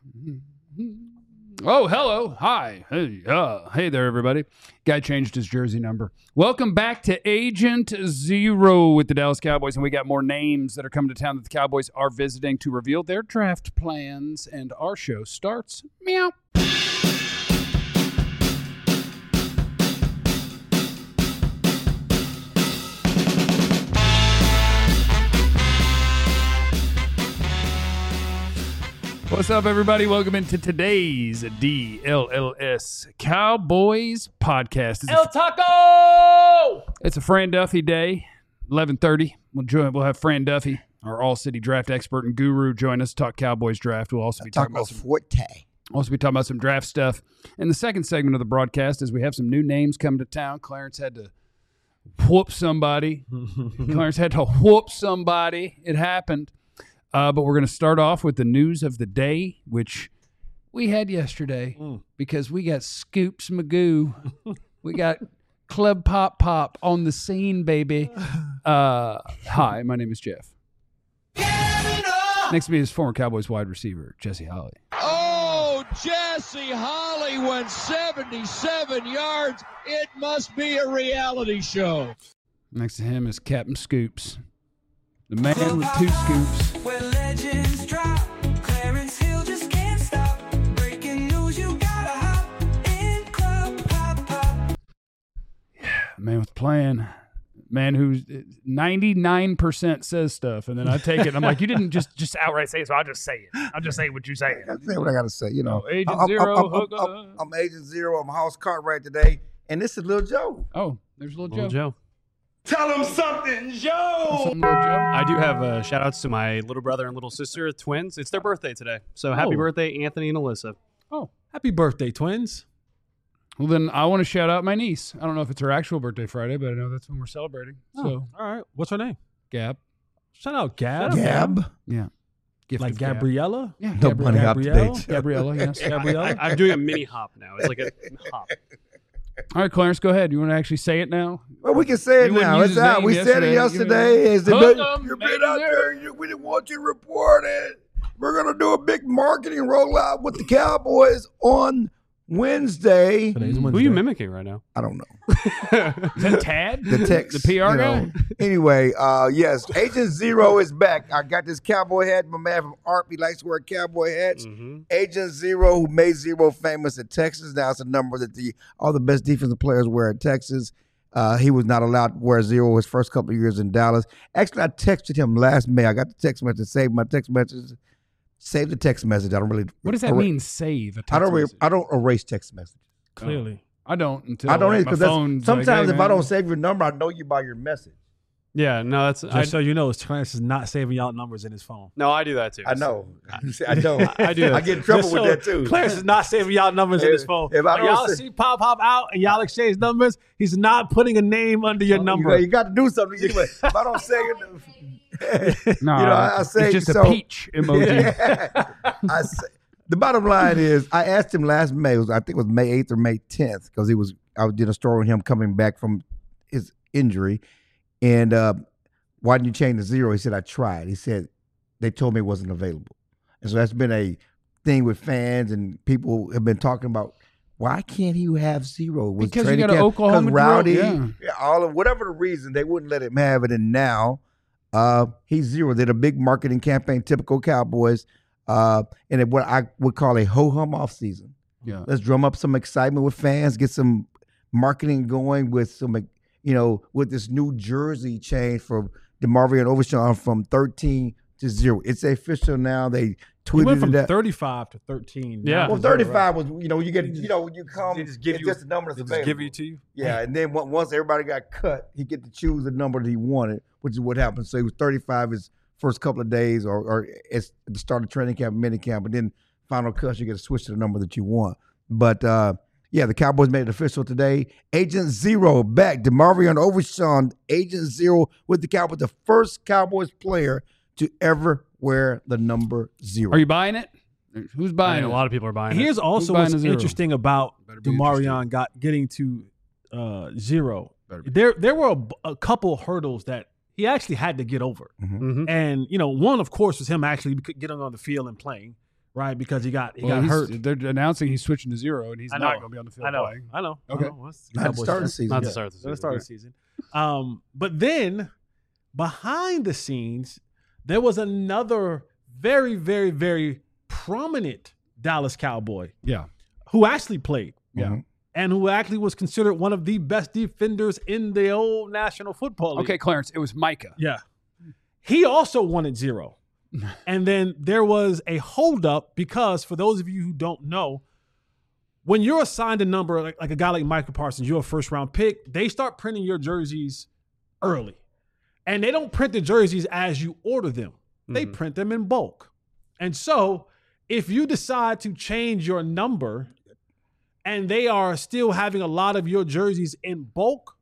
Oh, hello. Hi. Hey there, everybody. Guy changed his jersey number. Welcome back to Agent Zero with the Dallas Cowboys. And we got more names that are coming to town that the Cowboys are visiting to reveal their draft plans. And our show starts meow. What's up, everybody? Welcome into today's DLLS Cowboys podcast. El Taco! It's a Fran Duffy day, 11:30. We'll have Fran Duffy, our all-city draft expert and guru, join us to talk Cowboys draft. We'll also be talking about some draft stuff. In the second segment of the broadcast, as we have some new names coming to town, Clarence had to whoop somebody. It happened. But we're going to start off with the news of the day, which we had yesterday because we got Scoops Magoo. We got Club Pop on the scene, baby. Hi, my name is Jeff. Next to me is former Cowboys wide receiver, Jesse Holley. Oh, Jesse Holley went 77 yards. It must be a reality show. Next to him is Captain Scoops, the man with two scoops. Where legends drop, Clarence Hill just can't stop. Breaking news, you gotta hop in Club Pop. Yeah, man with a plan. Man who's 99% says stuff, and then I take it. And I'm like, you didn't just outright say it, so I'll just say it. I'll just say what you say. I say what I got to say. You know, Agent I'm, Zero. I'm Agent Zero. I'm House Cartwright today, and this is Lil Joe. Oh, there's Little Joe. Tell him something, Joe! Little Joe. I do have shout-outs to my little brother and little sister, twins. It's their birthday today. So happy birthday, Anthony and Alyssa. Oh, Happy birthday, twins. well then I want to shout out my niece. I don't know if it's her actual birthday Friday, but I know that's when we're celebrating. So, All right. What's her name? Gab. Shout out Gab. Gab. Yeah. Gift Like of Gab. Gabriella? Yeah, No bunny hop Gabrielle? today. Gabriella, yes. Gabriella? I'm doing a mini hop now. It's like a hop. All right, Clarence, go ahead. You want to actually say it now? Well, we can say it You wouldn't now. use It's his out. name We said it yesterday. yesterday. Hook 'em, You've baby. been out there. We didn't want you to report it. We're going to do a big marketing rollout with the Cowboys on Wednesday. Today's Who are Wednesday. you mimicking right now? I don't know. Is that Tad? The text. The PR guy? Anyway, yes, Agent Zero is back. I got this cowboy hat. My man from Art, he likes to wear cowboy hats. Agent Zero, who made Zero famous in Texas. Now it's a number that all the best defensive players wear in Texas. He was not allowed to wear Zero his first couple of years in Dallas. Actually, I texted him last May. I got the text message, saved my text message. Save the text message. I don't really. What does that mean, save a text message? I don't erase text messages. Clearly. I don't until I don't like, either my because phone's sometimes like, hey, if I man. don't save your number, I know you by your message. Yeah, no, that's Just so you know, Clarence is not saving y'all numbers in his phone. no, I do that too. I know. I know. I do that I get in trouble Just with so that too. Clarence is not saving y'all numbers in his phone. if I When don't y'all say- see Pop out and y'all exchange numbers, he's not putting a name under your number. You got to do something. Anyway, if I don't say it, No, I say it's just so. a peach emoji. I say, the bottom line is, I asked him last May. I think it was May 8th or May 10th, because I did a story on him coming back from his injury, and why didn't you change the Zero? He said, I tried. He said, they told me it wasn't available. And so that's been a thing with fans, and people have been talking about, why can't he have Zero? Was Because you training got an camp- 'cause Oklahoma Rowdy, drill, all of whatever the reason, they wouldn't let him have it. And now he's Zero. They did a big marketing campaign, typical Cowboys, and what I would call a ho-hum offseason. Yeah. Let's drum up some excitement with fans, get some marketing going with some, with this new jersey change for DeMarvion Overshawn from 13 to 0. It's official now. They He tweeted went from it out. 35 to 13. Yeah. Well, 35 was, you get, when you come, They just give it's you- just the number that's They available. just give it to you. Yeah, and then once everybody got cut, he get to choose the number that he wanted, which is what happened. So he was 35 his first couple of days, or at the start of training camp, mini camp, but then final cuts, you get to switch to the number that you want. But the Cowboys made it official today. Agent Zero back. DeMarvion Overshawn, Agent Zero with the Cowboys, the first Cowboys player to ever wear the number 0. Are you buying it? Who's I buying mean, it? a lot of people are buying it. Here's also buying what's a 0? interesting about Better be DeMarvion getting to 0. Better be. There were a couple hurdles that he actually had to get over. Mhm. And, one, of course, was him actually getting on the field and playing, right? Because he got hurt. They're announcing he's switching to 0, and he's not going to be on the field playing. I know. Okay. Not to start the season. Not to start the season. Not to start the season. But then behind the scenes, there was another very, very, very prominent Dallas Cowboy. Yeah. Who actually played. Yeah. And who actually was considered one of the best defenders in the old National Football League. Okay, Clarence, it was Micah. Yeah. He also wanted 0. And then there was a holdup because, for those of you who don't know, when you're assigned a number, like a guy like Michael Parsons, you're a first-round pick, they start printing your jerseys early. And they don't print the jerseys as you order them. They print them in bulk. And so if you decide to change your number and they are still having a lot of your jerseys in bulk,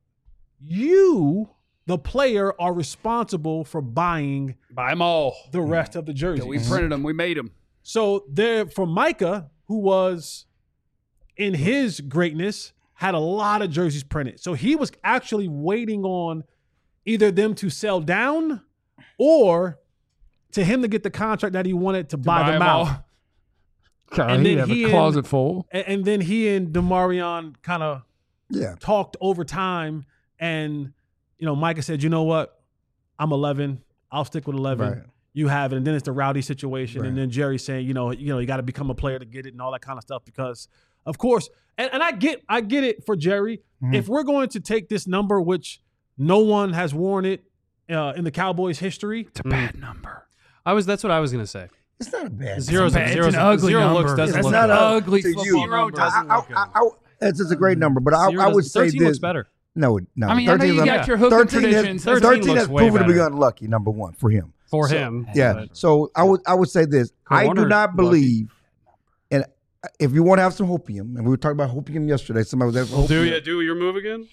you, the player, are responsible for buying them all. The rest of the jerseys. Yeah, we printed them. We made them. So there, for Micah, who was in his greatness, had a lot of jerseys printed. So he was actually waiting on either them to sell down or to him to get the contract that he wanted to buy them out. God, and then he have a closet full. And then he and DeMarion kind of talked over time. And, Micah said, you know what? I'm 11. I'll stick with 11. Right. You have it. And then it's the Rowdy situation. Right. And then Jerry saying, you got to become a player to get it and all that kind of stuff because, of course, and I get it for Jerry. Mm-hmm. If we're going to take this number, which no one has worn it in the Cowboys' history. It's a bad number. That's what I was going to say. It's not a bad number. It's an ugly number. It's not an ugly football number. It's a great number, but I would say 13 this. looks better. No. I mean, 13 you got your hook 13 traditions. 13 has proven to be unlucky, number one, for him. For him. Yeah. So I would say this. I do not believe, and if you want to have some hopium, and we were talking about hopium yesterday, somebody was asking do your move again?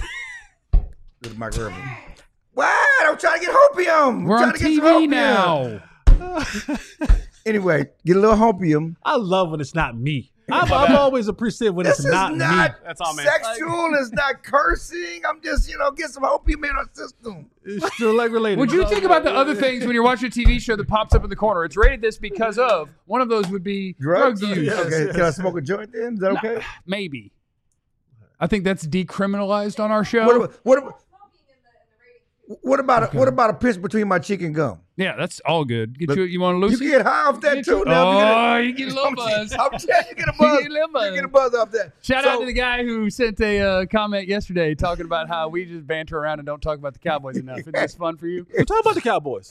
Mike Irvin. What? I'm trying to get hopium. We're on TV now. Anyway, get a little hopium. I love when it's not me. I'm always appreciative when it's not me. That's all, man. Sexual. It's not cursing. I'm just, get some hopium in our system. It's still like related. Would you think about the other things when you're watching a TV show that pops up in the corner? It's rated this because of. One of those would be drug use. Yes, okay. Can I smoke a joint then? Is that okay? Maybe. I think that's decriminalized on our show. What about a pinch between my cheek and gum? Yeah, that's all good. You want to lose? You can get high off that too. You get a little buzz. I'm telling you, get a buzz. You get a buzz off that. Shout out to the guy who sent a comment yesterday talking about how we just banter around and don't talk about the Cowboys enough. Isn't this fun for you? We're talking about the Cowboys.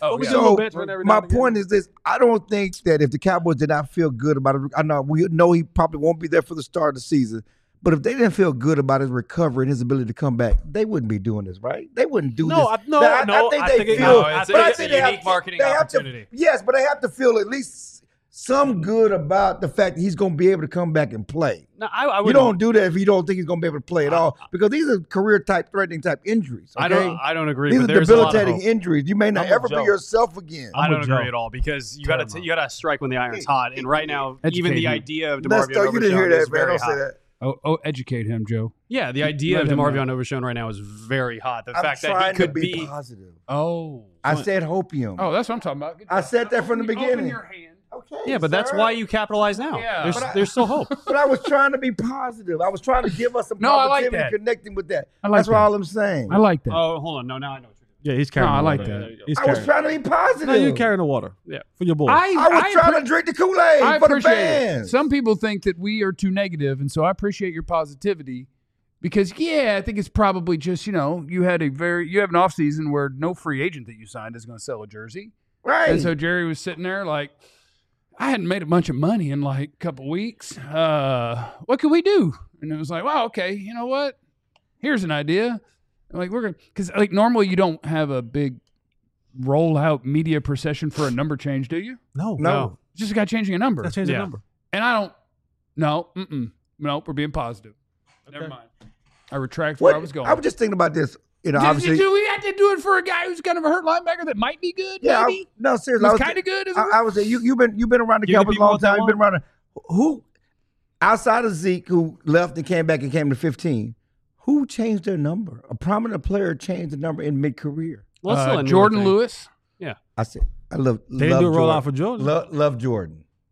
My point is this: I don't think that if the Cowboys did not feel good about it, we know he probably won't be there for the start of the season. But if they didn't feel good about his recovery and his ability to come back, they wouldn't be doing this, right? They wouldn't do this. I think it's a unique marketing opportunity. Yes, but they have to feel at least some good about the fact that he's going to be able to come back and play. No, I you don't do that if you don't think he's going to be able to play at all, because these are threatening type injuries. Okay? I don't agree. These but are debilitating injuries. You may not ever be yourself again. I don't agree at all, because you got to strike when the iron's hot. And right now, even the idea of DeMarvion Overshown you didn't hear that, is man. very Don't say hot. that. Oh, educate him, Joe. Yeah, the idea of DeMarvion Overshown right now is very hot. The fact that he could be positive. Oh, I said hopium. Oh, that's what I'm talking about. I said that from the beginning. Open your hand. Okay. Yeah, but that's why you capitalize now. Yeah. There's still hope. But I was trying to be positive. I was trying to give us some I like positivity that. connecting with that. That's that. All I'm saying. I like that. Oh, hold on. No, now I know what you're doing. Yeah, he's carrying I the like water. that. I was trying to be positive. No, you're carrying the water. Yeah. For your boy. I was trying to drink the Kool-Aid for the fans. Some people think that we are too negative, and so I appreciate your positivity because, I think it's probably just, you have an offseason where no free agent that you signed is going to sell a jersey. Right. And so Jerry was sitting there like, I hadn't made a bunch of money in like a couple weeks. What can we do? And it was like, wow, okay, you know what? Here's an idea. Like because normally you don't have a big rollout media procession for a number change, do you? No. It's just a guy changing a number. That's changing a number. And I don't. No, we're being positive. Okay. Never mind. I retract where I was going. I was just thinking about this. Obviously, do we have to do it for a guy who's kind of a hurt linebacker that might be good? Yeah, maybe? No, seriously, He's kind of good. I was saying you've been around the Cowboys a long time. You've been around. Who outside of Zeke, who left and came back and came to 15? Who changed their number? A prominent player changed the number in mid-career. Jordan Lewis. Yeah. I said, I love. They didn't do a rollout for Jordan. Love Jordan.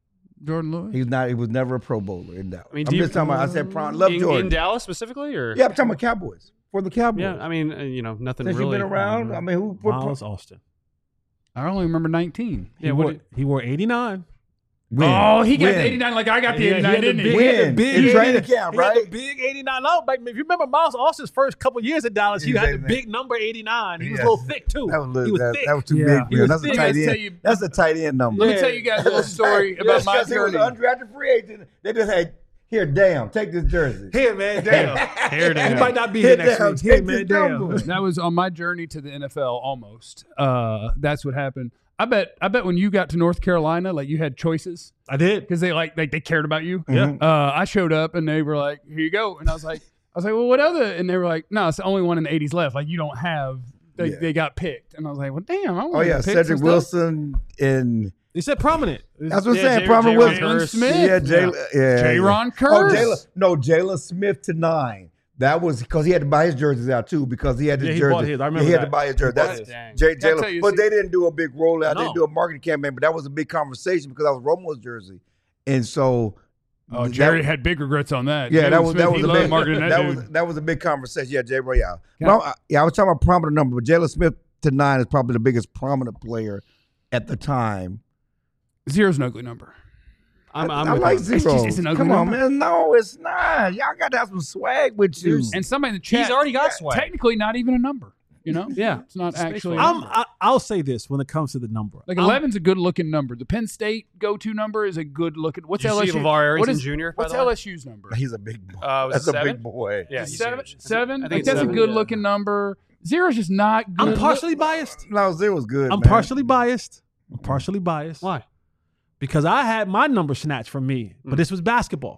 Jordan Lewis. He's not. He was never a Pro Bowler in Dallas. I mean, I'm just talking about. I said love Jordan in Dallas specifically, or yeah, I'm talking about Cowboys for the Cowboys. yeah. I mean, nothing Since really. you've been around, I mean, who? Miles Austin. I only remember 19. Yeah, He wore 89. Win. Oh, he got Win. the 89 like I got the He 89, had the didn't he? big- he had the Win. big In 89 training camp, he had right? the big 89. No, like, if you remember Miles Austin's first couple years at Dallas, he had the big number 89. He was a little thick too. That was, he was that, thick. that was too Yeah. big. He Man. was That's a thick. tight Let's tell end. you- That's a tight end number. Let me tell you guys a little story about my He was journey. an undrafted free agent. They just had here, damn, take this jersey. Here, man, damn. Here it He is. might not be Here, here next damn, week. Here, take man, this damn. number. That was on my journey to the NFL almost. That's what happened. I bet when you got to North Carolina, like you had choices I did. because they cared about you. Yeah. I showed up and they were like, "Here you go," and I was like, "Well, what other?" And they were like, "No, it's the only one in the '80s left. Like you don't have." They got picked, and I was like, "Well, damn!" I Oh yeah, Cedric Wilson and He said prominent. that's what I'm Yeah, saying. Jay- Prominent Jay Wilson. Jalen Smith. Yeah, J-Ron Oh, Curse. Jalen Smith to 9. That was because he had to buy his jerseys out too because he had his Yeah, he jersey. bought his. I remember he had that. to buy his jersey. He bought That's his. Dang. Jay Gotta tell Jalen. you, But see- they didn't do a big rollout. They No. didn't do a marketing campaign. But that was a big conversation because that was Romo's jersey, and so. Oh, Jerry had big regrets on that. Yeah, Jalen that was Smith, he a loved big marketing that dude. that was a big conversation. Yeah, Jay Royale. Well, I was talking about prominent number, but Jalen Smith to 9 is probably the biggest prominent player at the time. Zero's an ugly number. I'm I with like you. zero. it's an ugly Come on, number. man. No, it's not. Y'all got to have some swag with you. And somebody in the chat, He's already got swag. technically not even a number. You know, Yeah. it's not actually. A I'm- number. I'll say this when it comes to the number. Like 11's a good looking number. The Penn State go-to number is a good looking. What's Did you see LSU? LeVar Arrington what is, Jr., by What's the way? LSU's number? He's a big boy. Was That's it a 7? big boy. Yeah, he's Seven. huge. Seven. I Like think it's that's a 7. good looking number. Zero's just not good. I'm partially biased. No, Zero's good. I'm man. partially biased. I'm partially biased. Why? Because I had my number snatched from me, but this was basketball.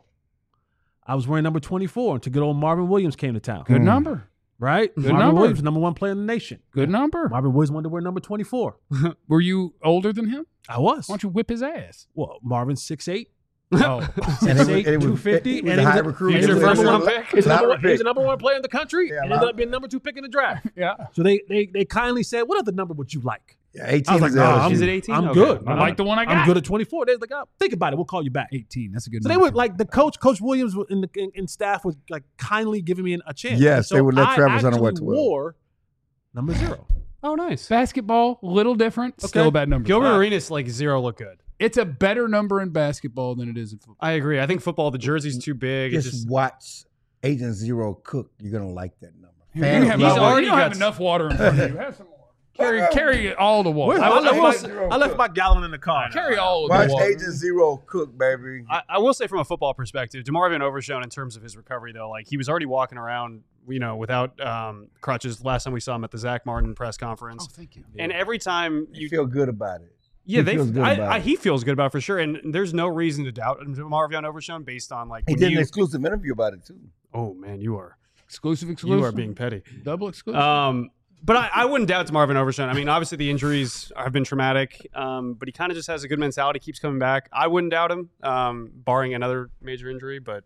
I was wearing number 24 until good old Marvin Williams came to town. Good number. Right? Good Marvin number. Williams, number 1 player in the nation. Good number. Marvin Williams wanted to wear number 24. Were you older than him? I was. Why don't you whip his ass? Well, Marvin's 6'8", Oh, And it was- 6'8", and it was- 250, he was and a he was high a- recruit. he was He was the your number first one round pick. He was the Lottery number- he was pick. the number 1 player in the country, Yeah, and ended up being number 2 pick in the draft. yeah. So they kindly said, "What other number would you like?" Yeah, 18 I was like, is "Nah, LSU. Is it 18? I'm Okay. good. I like the one I got. I'm good at 24. They're like, "Oh, think about it. We'll call you back." 18. That's a good So number. they would like the Coach Williams in staff was like kindly giving me a chance. Yes, And so they would let Travis I Hunter wear actually 12. wore number 0. Oh, nice. Basketball, a little different. Still Okay. a bad number. Gilbert Arenas, like 0 look good. It's a better number in basketball than it is in football. I agree. I think football, the jersey's too big. It's Just just watch Agent Zero cook. You're going to like that number. You Fans have, He's love it. already you don't have got- enough water in front of you. Have some more. Carry all the water. I left my gallon in the car. Carry all of Watch the water. Agent Zero cook, baby. I will say from a football perspective, DeMarvin Overshown in terms of his recovery though, like he was already walking around, without crutches. Last time we saw him at the Zach Martin press conference, Oh, thank you. and every time You feel good about it. yeah, he feels good about it. he feels good about it for sure, and there's no reason to doubt DeMarvin Overshown based on like He when did an you- exclusive interview about it, too. oh man, you are Exclusive. you are being petty. double exclusive. But I wouldn't doubt DeMarvin Overshown. I mean, obviously the injuries have been traumatic, but he kind of just has a good mentality, keeps coming back. I wouldn't doubt him, barring another major injury, but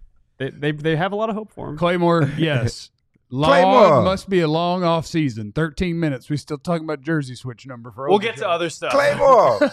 they have a lot of hope for him. Claymore, yes. Claymore. Must be a long off season. 13 minutes. We still talking about jersey switch number for. We'll get to other stuff. Claymore.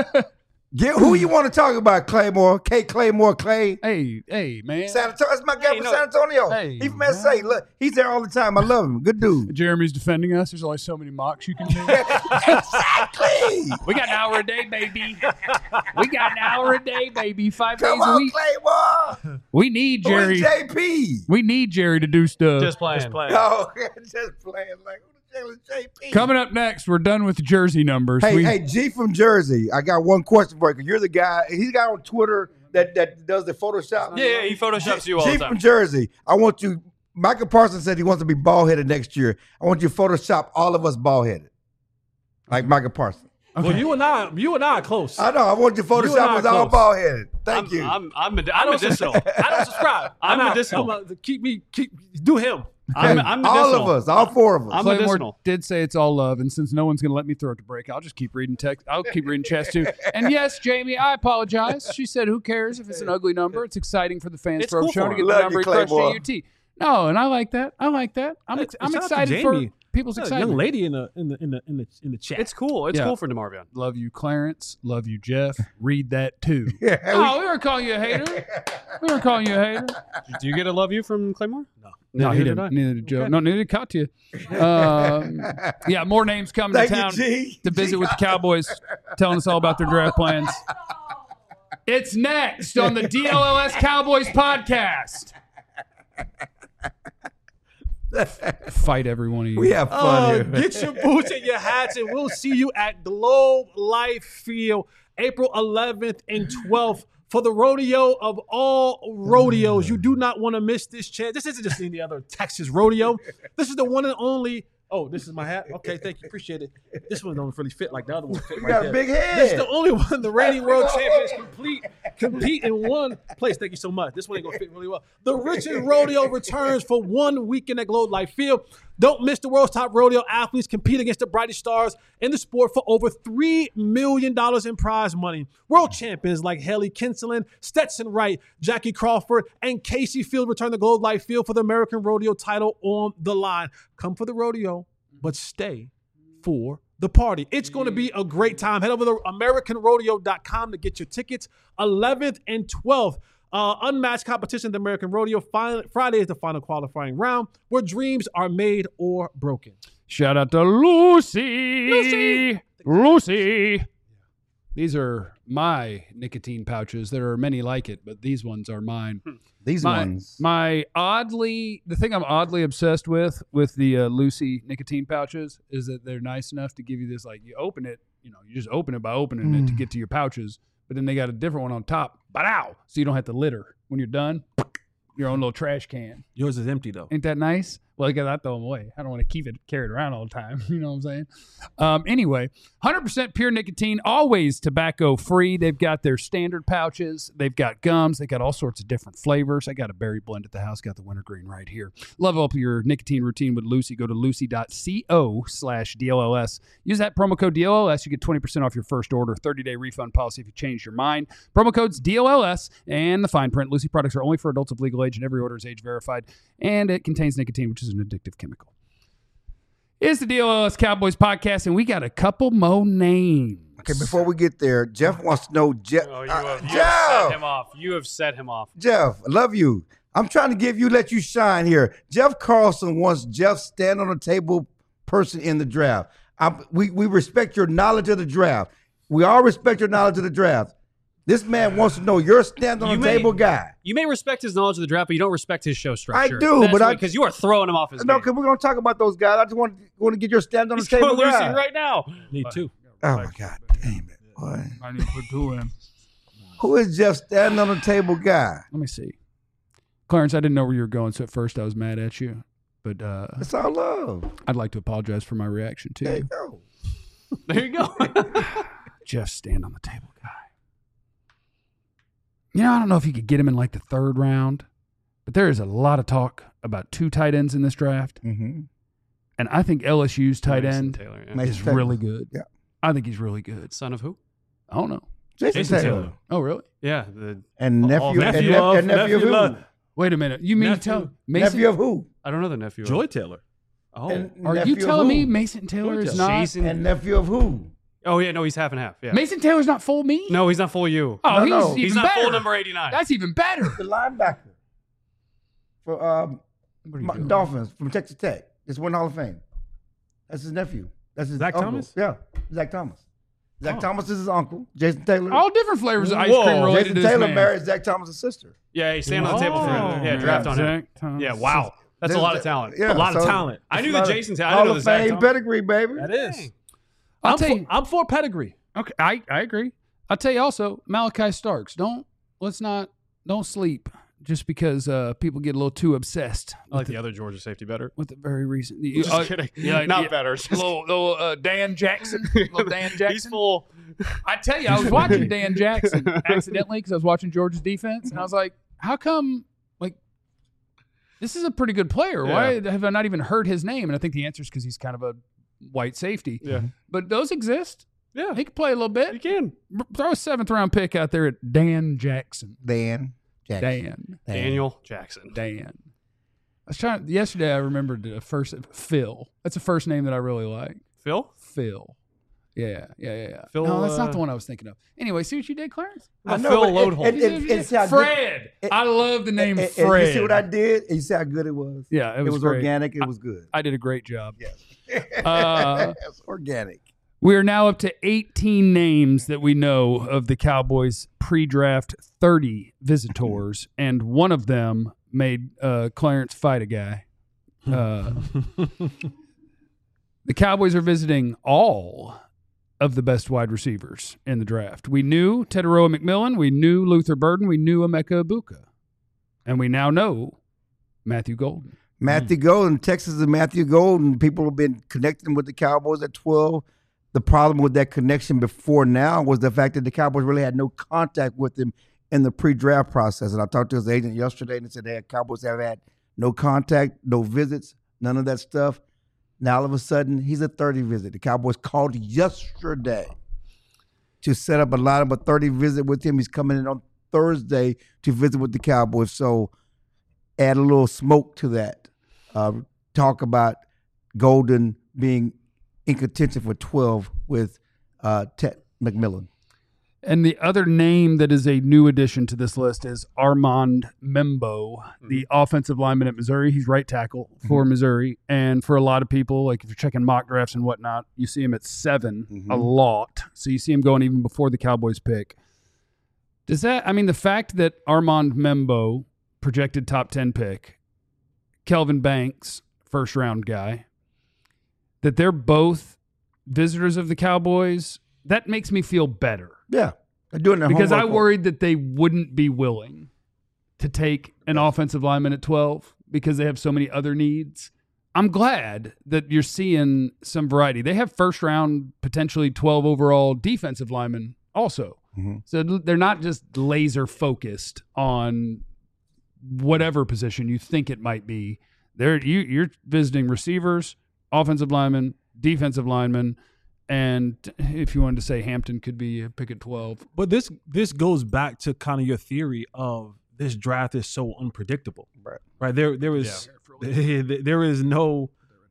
Who you want to talk about, Claymore? Claymore Clay. Hey, man. San Antonio. That's my guy Hey, from no. San Antonio. Hey, He from SA. Look, he's there all the time. I love him. Good dude. Jeremy's defending us. There's only so many mocks you can do. Exactly. We got an hour a day, baby. We got an hour a day, baby. 5 Come days a on, week. Claymore. We need Who is Jerry. JP? We need Jerry to do stuff. Just playing. No, just playing. Like, who the hell is JP? Coming up next, we're done with jersey numbers. Hey, G from Jersey. I got one question for you. 'Cause you're the guy. He's the guy on Twitter that does the Photoshop. Yeah, he photoshops you all G the time. from Jersey. I want you. Michael Parsons said he wants to be bald headed next year. I want you to Photoshop all of us bald headed, like Michael Parsons. Well, you and I are close. I know. I want you to You and I Photoshop are us all close. bald headed. Thank you. I'm medicinal. I don't subscribe. I'm medicinal. Do him. I'm all medicinal. of us, all four of us. I'm Claymore medicinal. did say it's all love, and since no one's going to let me throw it to break, I'll just keep reading text. I'll keep reading chats too. And yes, Jamie, I apologize. She said, "Who cares if it's an ugly number? It's exciting for the fans It's for cool Overshown for to him. get Love the number you, he crushed Claymore. at UT." No, and I like that. I'm Shout out to excited for. Jamie. people's A excitement. young lady in the chat. It's cool. It's Yeah. cool for DeMarvion. Love you, Clarence. Love you, Jeff. Read that too. Yeah, Oh, we weren't calling you a hater. We weren't calling you a hater. Do you get a love you from Claymore? No, he Neither didn't. did I. Neither did Joe. Okay. No, neither did Katya. Yeah, more names coming Thank to you, town G. to visit with the Cowboys, telling us all about their draft plans. It's next on the DLLS Cowboys podcast. Fight every one of you. We have fun here. Get your boots and your hats, and we'll see you at Globe Life Field April 11th and 12th for the rodeo of all rodeos. You do not want to miss this chance. This isn't just any other Texas rodeo. This is the one and only. Oh, this is my hat? Okay, thank you. Appreciate it. This one don't really fit like the other one fit You right got there. a big head. This is the only one the reigning world champions compete in one place. Thank you so much. This one ain't gonna fit really well. The Richard Rodeo returns for 1 weekend at Globe Life Field. Don't miss the world's top rodeo athletes compete against the brightest stars in the sport for over $3 million in prize money. World champions like Haley Kinseling, Stetson Wright, Jackie Crawford, and Casey Field return to Globe Life Field for the American Rodeo title on the line. Come for the rodeo, but stay for the party. It's going to be a great time. Head over to AmericanRodeo.com to get your tickets. 11th and 12th. Unmatched competition at the American Rodeo. Friday is the final qualifying round where dreams are made or broken. Shout out to Lucy. Lucy. These are my nicotine pouches. There are many like it, but these ones are mine. These ones. The thing I'm oddly obsessed with the Lucy nicotine pouches is that they're nice enough to give you this, like, you open it, you just open it by opening it to get to your pouches, but then they got a different one on top, so you don't have to litter. When you're done, your own little trash can. Yours is empty, though. Ain't that nice? Well, because I throw them away. I don't want to keep it carried around all the time. You know what I'm saying? Anyway, 100% pure nicotine, always tobacco free. They've got their standard pouches. They've got gums. They got all sorts of different flavors. I got a berry blend at the house. Got the wintergreen right here. Level up your nicotine routine with Lucy. Go to lucy.co/DLLS. Use that promo code DLLS. You get 20% off your first order. 30-day refund policy if you change your mind. Promo codes DLLS and the fine print. Lucy products are only for adults of legal age, and every order is age verified. And it contains nicotine, which is an addictive chemical. It's the DLLS Cowboys podcast, and we got a couple more names. Okay, before we get there, Jeff wants to know. Jeff, Oh, you have Jeff, set him off. You have set him off. Jeff, I love you. I'm trying to let you shine here. Jeff Carlson wants Jeff stand on the table person in the draft. We respect your knowledge of the draft. We all respect your knowledge of the draft. This man wants to know you're stand on the table guy. You may respect his knowledge of the draft, but you don't respect his show structure. I do, because you are throwing him off his No, game. because we're going to talk about those guys. I just want to get your stand on He's the table going guy. Lucy right now. Me too. Oh, my God. Damn it. Boy. I need to put two in. Who is Jeff standing on the table guy? Let me see. Clarence, I didn't know where you were going, so at first I was mad at you. But It's all love. I'd like to apologize for my reaction, too. There you go. There you go. Jeff stand on the table guy. I don't know if you could get him in like the third round, but there is a lot of talk about two tight ends in this draft. Mm-hmm. And I think LSU's tight Mason end Taylor, yeah. Mason is Taylor. really good. Yeah. I think he's really good. Son of who? I don't know. Jason Taylor. Oh, really? Yeah. And nephew, nephew and nephew of who? love. Wait a minute. You mean to Nephew. tell Mason? Nephew of who? I don't know the nephew. Joy Taylor. Oh. And Are nephew you of telling who? me Mason Taylor is not? Jason. And nephew of who? Oh, yeah. No, he's half and half. Yeah. Mason Taylor's not full me? No, he's not full you. Oh, No, no. he's He's even not better. full number 89. That's even better. The linebacker for What are you doing? Dolphins from Texas Tech. Just won Hall of Fame. That's his nephew. That's his Zach uncle. Thomas? Yeah, Zach Thomas. Zach Thomas is his uncle. Jason Taylor. All different flavors of ice Whoa. cream related Jason to this Taylor man. married Zach Thomas' sister. Yeah, he's standing on the table for him. Yeah, Oh. draft on him. Zach Thomas. Yeah, wow. That's a lot of talent. Yeah, A lot of so talent. I it's knew a the lot of Jason Taylor. I Hall didn't know of the Zach Fame Thomas. pedigree, baby. That is. I'll tell you. I'm for pedigree. Okay, I agree. I'll tell you also, Malachi Starks. Don't sleep just because people get a little too obsessed I like the other Georgia safety better. with the very recent. Just kidding. Yeah, Not yeah. better. Just Little Dan Jackson. Little Dan Jackson. He's full. I tell you, I was watching Dan Jackson accidentally because I was watching Georgia's defense, and I was like, how come, like, this is a pretty good player. Why have I not even heard his name? And I think the answer is because he's kind of a white safety. Yeah. But those exist. Yeah. He can play a little You bit. can. Throw a 7th-round pick out there at Dan Jackson. Dan Jackson. Dan. Daniel Jackson. Dan. Yesterday I remembered Phil. That's a first name that I really like. Phil? Phil. Yeah. Phil, no, that's not the one I was thinking of. Anyway, see what you did, Clarence? I know, Phil but Loadholm. Fred. I love the name Fred. You see what I did? And you see how good it was? Yeah, it was great. Organic. It was good. I did a great job. Yes. It's organic. We are now up to 18 names that we know of the Cowboys pre-draft 30 visitors, and one of them made Clarence fight a guy. The Cowboys are visiting all of the best wide receivers in the draft. We knew Teteroa McMillan, we knew Luther Burden, we knew Emeka Ibuka, and we now know Matthew Golden. Matthew Golden, Texas and Matthew Golden. People have been connecting with the Cowboys at 12. The problem with that connection before now was the fact that the Cowboys really had no contact with him in the pre-draft process. And I talked to his agent yesterday and he said, Cowboys have had no contact, no visits, none of that stuff. Now, all of a sudden, he's a 30 visit. The Cowboys called yesterday to set up a lineup of 30 visit with him. He's coming in on Thursday to visit with the Cowboys. So add a little smoke to that. Talk about Golden being in contention for 12 with Ted McMillan. And the other name that is a new addition to this list is Armand Membo, the offensive lineman at Missouri. He's right tackle for Missouri. And for a lot of people, like if you're checking mock drafts and whatnot, you see him at 7 a lot. So you see him going even before the Cowboys pick. The fact that Armand Membo, projected top 10 pick, Kelvin Banks, first round guy, that they're both visitors of the Cowboys, that makes me feel better. Yeah. They're doing their because I homework. worried that they wouldn't be willing to take an offensive lineman at 12 because they have so many other needs. I'm glad that you're seeing some variety. They have first round, potentially 12 overall defensive linemen also. So they're not just laser focused on whatever position you think it might be. You're visiting receivers, offensive linemen, defensive linemen, and if you wanted to say Hampton could be a pick at 12. But this goes back to kind of your theory of this draft is so unpredictable. Right. There's no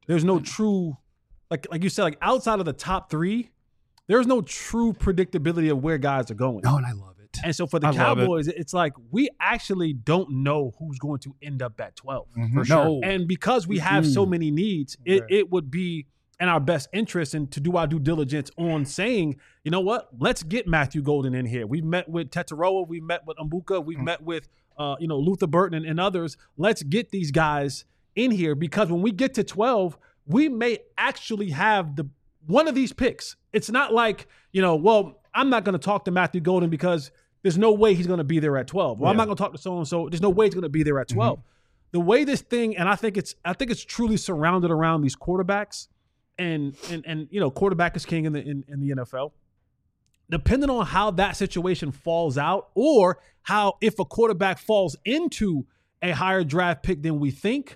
true, like you said, like outside of the top 3, there's no true predictability of where guys are going. Oh, and I love it. And so for the Cowboys, it's like we actually don't know who's going to end up at 12. For sure. No. And because we have so many needs, it would be in our best interest and to do our due diligence on saying, you know what, let's get Matthew Golden in here. We met with Teteroa, we met with Mbuka, we met with Luther Burton and others. Let's get these guys in here because when we get to 12, we may actually have one of these picks. It's not like, I'm not going to talk to Matthew Golden because there's no way he's going to be there at 12. Well, I'm not going to talk to so-and-so. There's no way he's going to be there at 12. The way this thing, and I think it's truly surrounded around these quarterbacks. And quarterback is king in the NFL. Depending on how that situation falls out, or how if a quarterback falls into a higher draft pick than we think,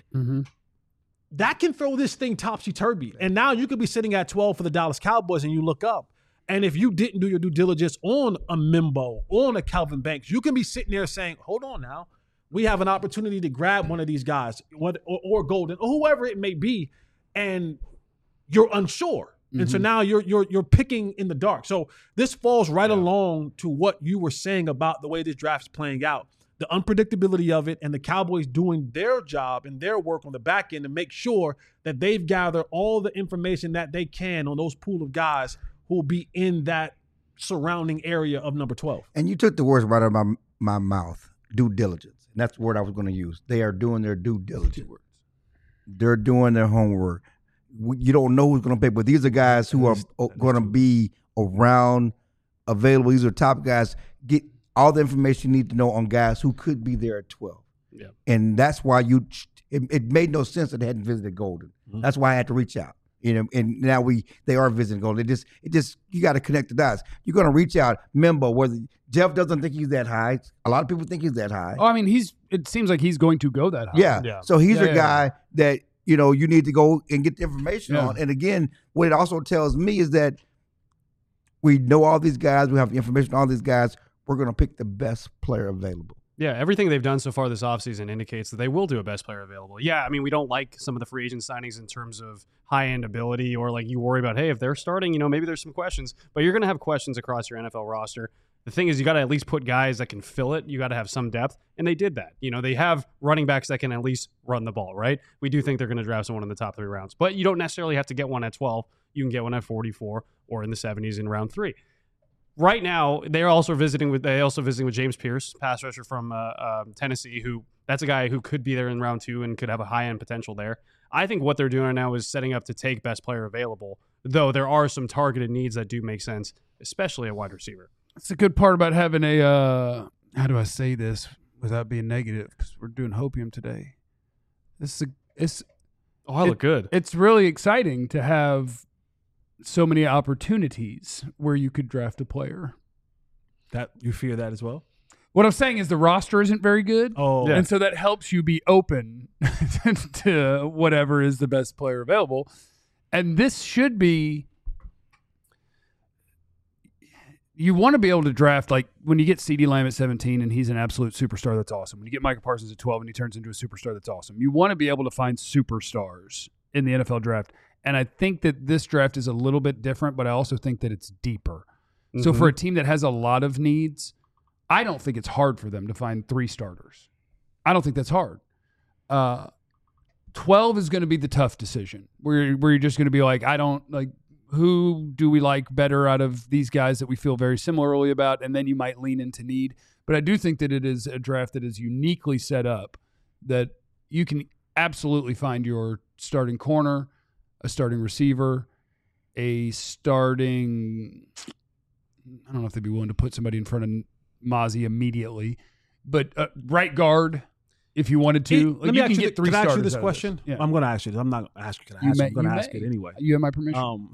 that can throw this thing topsy-turvy. And now you could be sitting at 12 for the Dallas Cowboys and you look up. And if you didn't do your due diligence on a Membo, on a Kelvin Banks, you can be sitting there saying, hold on now. We have an opportunity to grab one of these guys or Golden or whoever it may be. And you're unsure. And so now you're picking in the dark. So this falls right along to what you were saying about the way this draft's playing out. The unpredictability of it and the Cowboys doing their job and their work on the back end to make sure that they've gathered all the information that they can on those pool of guys who will be in that surrounding area of number 12. And you took the words right out of my mouth, due diligence. And that's the word I was going to use. They are doing their due diligence. They're doing their homework. You don't know who's going to pick, but these are guys who are going to be around, available. These are top guys. Get all the information you need to know on guys who could be there at 12. Yeah. And that's why it made no sense that they hadn't visited Golden. That's why I had to reach out. And now they are visiting Golden. It just you got to connect the dots. You're going to reach out. Membo, whether Jeff doesn't think he's that high. A lot of people think he's that high. Oh, I mean, it seems like he's going to go that high. Yeah. So he's a guy that you need to go and get the information on. And again, what it also tells me is that we know all these guys. We have the information on all these guys. We're going to pick the best player available. Yeah, everything they've done so far this offseason indicates that they will do a best player available. Yeah, I mean, we don't like some of the free agent signings in terms of high-end ability, or like you worry about, hey, if they're starting, maybe there's some questions. But you're going to have questions across your NFL roster. The thing is, you got to at least put guys that can fill it. You got to have some depth, and they did that. They have running backs that can at least run the ball, right? We do think they're going to draft someone in the top 3 rounds. But you don't necessarily have to get one at 12. You can get one at 44 or in the 70s in round 3. Right now, they also visiting with James Pierce, pass rusher from Tennessee, that's a guy who could be there in round 2 and could have a high-end potential there. I think what they're doing now is setting up to take best player available, though there are some targeted needs that do make sense, especially at wide receiver. That's the good part about having a how do I say this without being negative, because we're doing Hopium today. I look good. It's really exciting to have so many opportunities where you could draft a player. That you fear that as well? What I'm saying is the roster isn't very good. Oh, and so that helps you be open to whatever is the best player available. And this should be, you want to be able to draft, like when you get CeeDee Lamb at 17 and he's an absolute superstar, that's awesome. When you get Micah Parsons at 12 and he turns into a superstar, that's awesome. You want to be able to find superstars in the NFL draft. And I think that this draft is a little bit different, but I also think that it's deeper. Mm-hmm. So for a team that has a lot of needs, I don't think it's hard for them to find 3 starters. I don't think that's hard. 12 is going to be the tough decision where you're just going to be like, who do we like better out of these guys that we feel very similarly about? And then you might lean into need. But I do think that it is a draft that is uniquely set up that you can absolutely find your starting corner, a starting receiver, a starting, I don't know if they'd be willing to put somebody in front of Mozzie immediately, but right guard, if you wanted to. Let me ask you, can I ask you this question? Yeah. I'm going to ask you. I'm not going to ask you. I'm going to ask it anyway. You have my permission.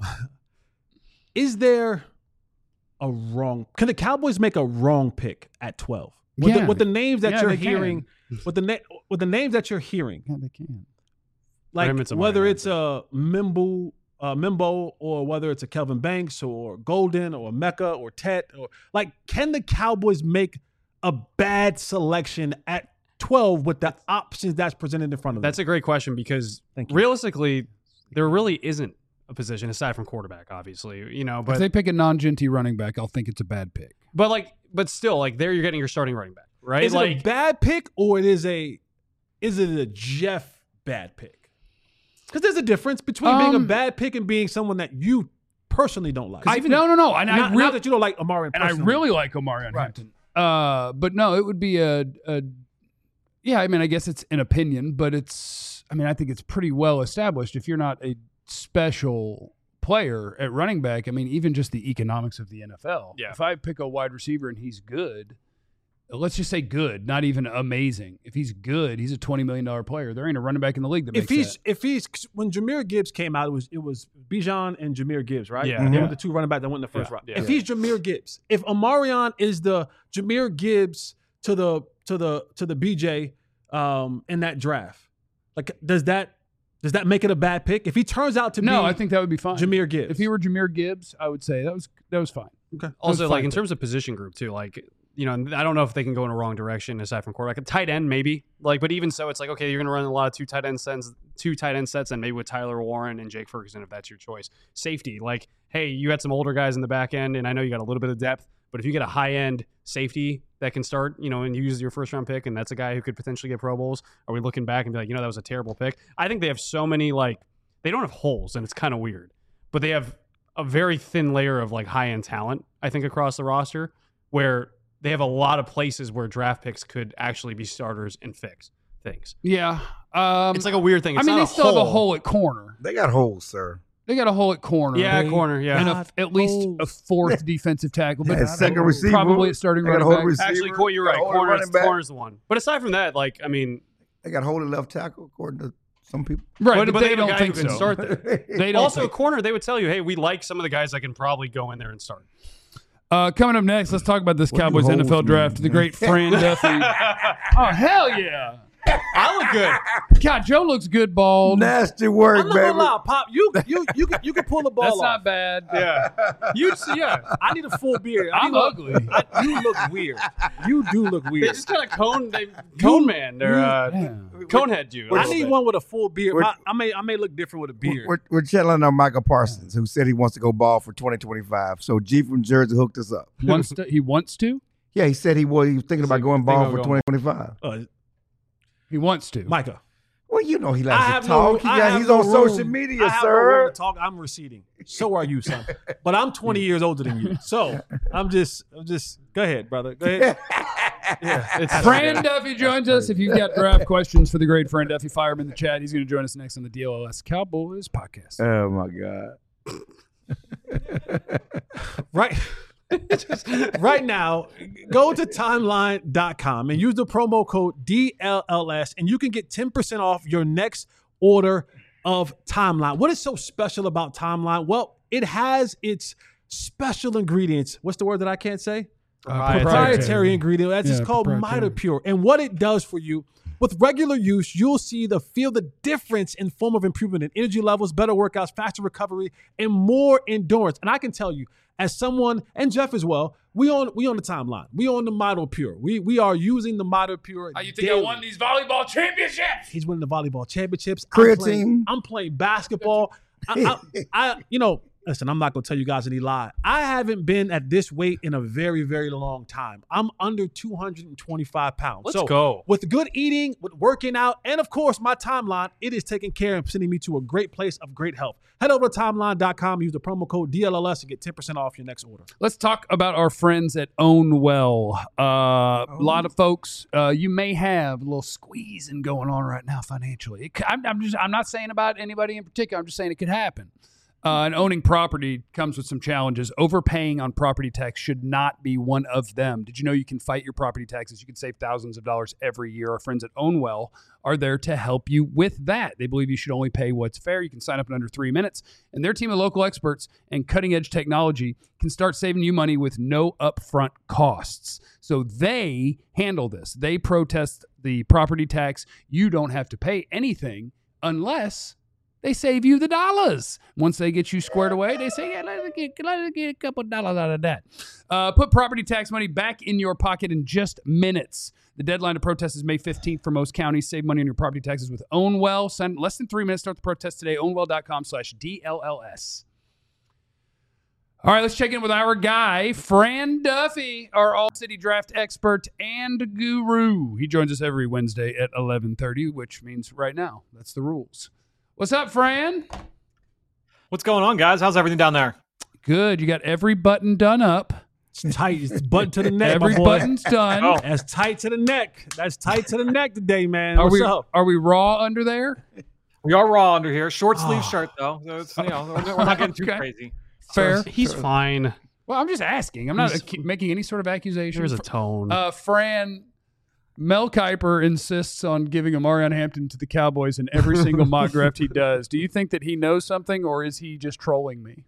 Is there a wrong? Can the Cowboys make a wrong pick at 12? With the names that you're hearing, with the names that you're hearing, yeah, they can. Like whether it's a Mimbo or whether it's a Kelvin Banks or Golden or Mecca or Tet, or like, can the Cowboys make a bad selection at 12 with the options that's presented in front of them? That's a great question, because realistically, there really isn't a position aside from quarterback, obviously, but if they pick a non-Genty running back, I'll think it's a bad pick. But still, there you're getting your starting running back, right? Is it a bad pick, or is it a Jeff bad pick? Because there's a difference between being a bad pick and being someone that you personally don't like. No. And not that you don't like Omarion personally. And I really like Omarion Hampton. But no, it would be yeah, I mean, I guess it's an opinion, but I think it's pretty well established. If you're not a special player at running back, I mean, even just the economics of the NFL. Yeah. If I pick a wide receiver and he's good, let's just say good, not even amazing. If he's good, he's a $20 million player. There ain't a running back in the league that makes that. If he's when Jahmyr Gibbs came out, it was Bijan and Jahmyr Gibbs, right? Yeah. They were the 2 running back that went in the first round. Yeah. If he's Jahmyr Gibbs, if Omarion is the Jahmyr Gibbs to the BJ in that draft, like does that make it a bad pick? If he turns out to be, I think that would be fine. Jahmyr Gibbs. If he were Jahmyr Gibbs, I would say that was fine. Okay. Also, in terms of position group too, I don't know if they can go in a wrong direction aside from quarterback. A tight end, maybe. But even so, it's okay, you're going to run a lot of two tight end sets, and maybe with Tyler Warren and Jake Ferguson, if that's your choice. Safety, hey, you had some older guys in the back end, and I know you got a little bit of depth, but if you get a high-end safety that can start, and use your first-round pick, and that's a guy who could potentially get Pro Bowls, are we looking back and be like, that was a terrible pick? I think they have so many, they don't have holes, and it's kind of weird, but they have a very thin layer of, high-end talent, I think, across the roster, where they have a lot of places where draft picks could actually be starters and fix things. Yeah. It's a weird thing. It's they still have a hole at corner. They got holes, sir. They got a hole at corner. Yeah, corner, yeah. And at least a 4th defensive tackle. But second receiver. Probably at starting running back. Receiver. Actually, Coy, you're right. Corner's the one. But aside from that, they got hold of left tackle, according to some people. Right, but they don't think so. Start there. They don't also, corner, they would tell you, hey, we like some of the guys that can probably go in there and start. Coming up next, let's talk about this Cowboys NFL draft. The great Fran Duffy. Oh, hell yeah. I look good. God, Joe looks good bald. Nasty work, I'm not baby. gonna lie, Pop. You can pull the ball That's off. not bad. Yeah. I need a full beard. I'm ugly. You look weird. You do look They weird. just kind of cone man. They're conehead you. I need one with a full beard. I may look different with a beard. We're chilling on Michael Parsons, who said he wants to go ball for 2025. So G from Jersey hooked us up. He wants to? Yeah, he said he was thinking about going ball for 2025. He wants to. Micah. Well, you know he likes to talk. He's on social media, I have no sir. room to talk. I'm receding. So are you, son. But I'm 20 years older than you. So I'm just. Go ahead, brother. Go ahead. Fran Duffy joins us. If you've got draft questions for the great Fran Duffy, fire him in the chat. He's going to join us next on the DLLS Cowboys podcast. Oh my God! Right now, go to timeline.com and use the promo code DLLS, and you can get 10% off your next order of Timeline. What is so special about Timeline? Well, it has its special ingredients. What's the word that I can't say? Proprietary ingredient. That's just called MitoPure. And what it does for you, with regular use, you'll feel the difference in form of improvement in energy levels, better workouts, faster recovery, and more endurance. And I can tell you, as someone, and Jeff as well, we on the timeline. We on the MitoPure. We are using the MitoPure. How you think I won these volleyball championships? He's winning the volleyball championships. Creatine. I'm playing basketball. Listen, I'm not going to tell you guys any lie. I haven't been at this weight in a very, very long time. I'm under 225 pounds. Let's go. With good eating, with working out, and of course, my Timeline, it is taking care of sending me to a great place of great health. Head over to timeline.com, use the promo code DLLS to get 10% off your next order. Let's talk about our friends at Own Well. A lot of folks, you may have a little squeezing going on right now financially. I'm not saying about anybody in particular. I'm just saying it could happen. And owning property comes with some challenges. Overpaying on property tax should not be one of them. Did you know you can fight your property taxes? You can save thousands of dollars every year. Our friends at Own Well are there to help you with that. They believe you should only pay what's fair. You can sign up in under 3 minutes. And their team of local experts and cutting-edge technology can start saving you money with no upfront costs. So they handle this. They protest the property tax. You don't have to pay anything unless they save you the dollars. Once they get you squared away, they say, yeah, let's get a couple dollars out of that. Put property tax money back in your pocket in just minutes. The deadline to protest is May 15th for most counties. Save money on your property taxes with Own Well. Send less than 3 minutes. Start the protest today. ownwell.com/DLLS. All right, let's check in with our guy, Fran Duffy, our All-City Draft expert and guru. He joins us every Wednesday at 11:30, which means right now, that's the rules. What's up, Fran? What's going on, guys? How's everything down there? Good. You got every button done up. It's tight. It's button to the neck. Every button's done. Oh. That's tight to the neck. That's tight to the neck today, man. What's up? Are we raw under there? We are raw under here. Short sleeve shirt, though. So it's, we're not getting too Okay. crazy. Fair. He's fine. Well, I'm just asking. I'm not making any sort of accusation. There's a tone. Fran, Mel Kiper insists on giving Amarion Hampton to the Cowboys in every single mock draft he does. Do you think that he knows something, or is he just trolling me?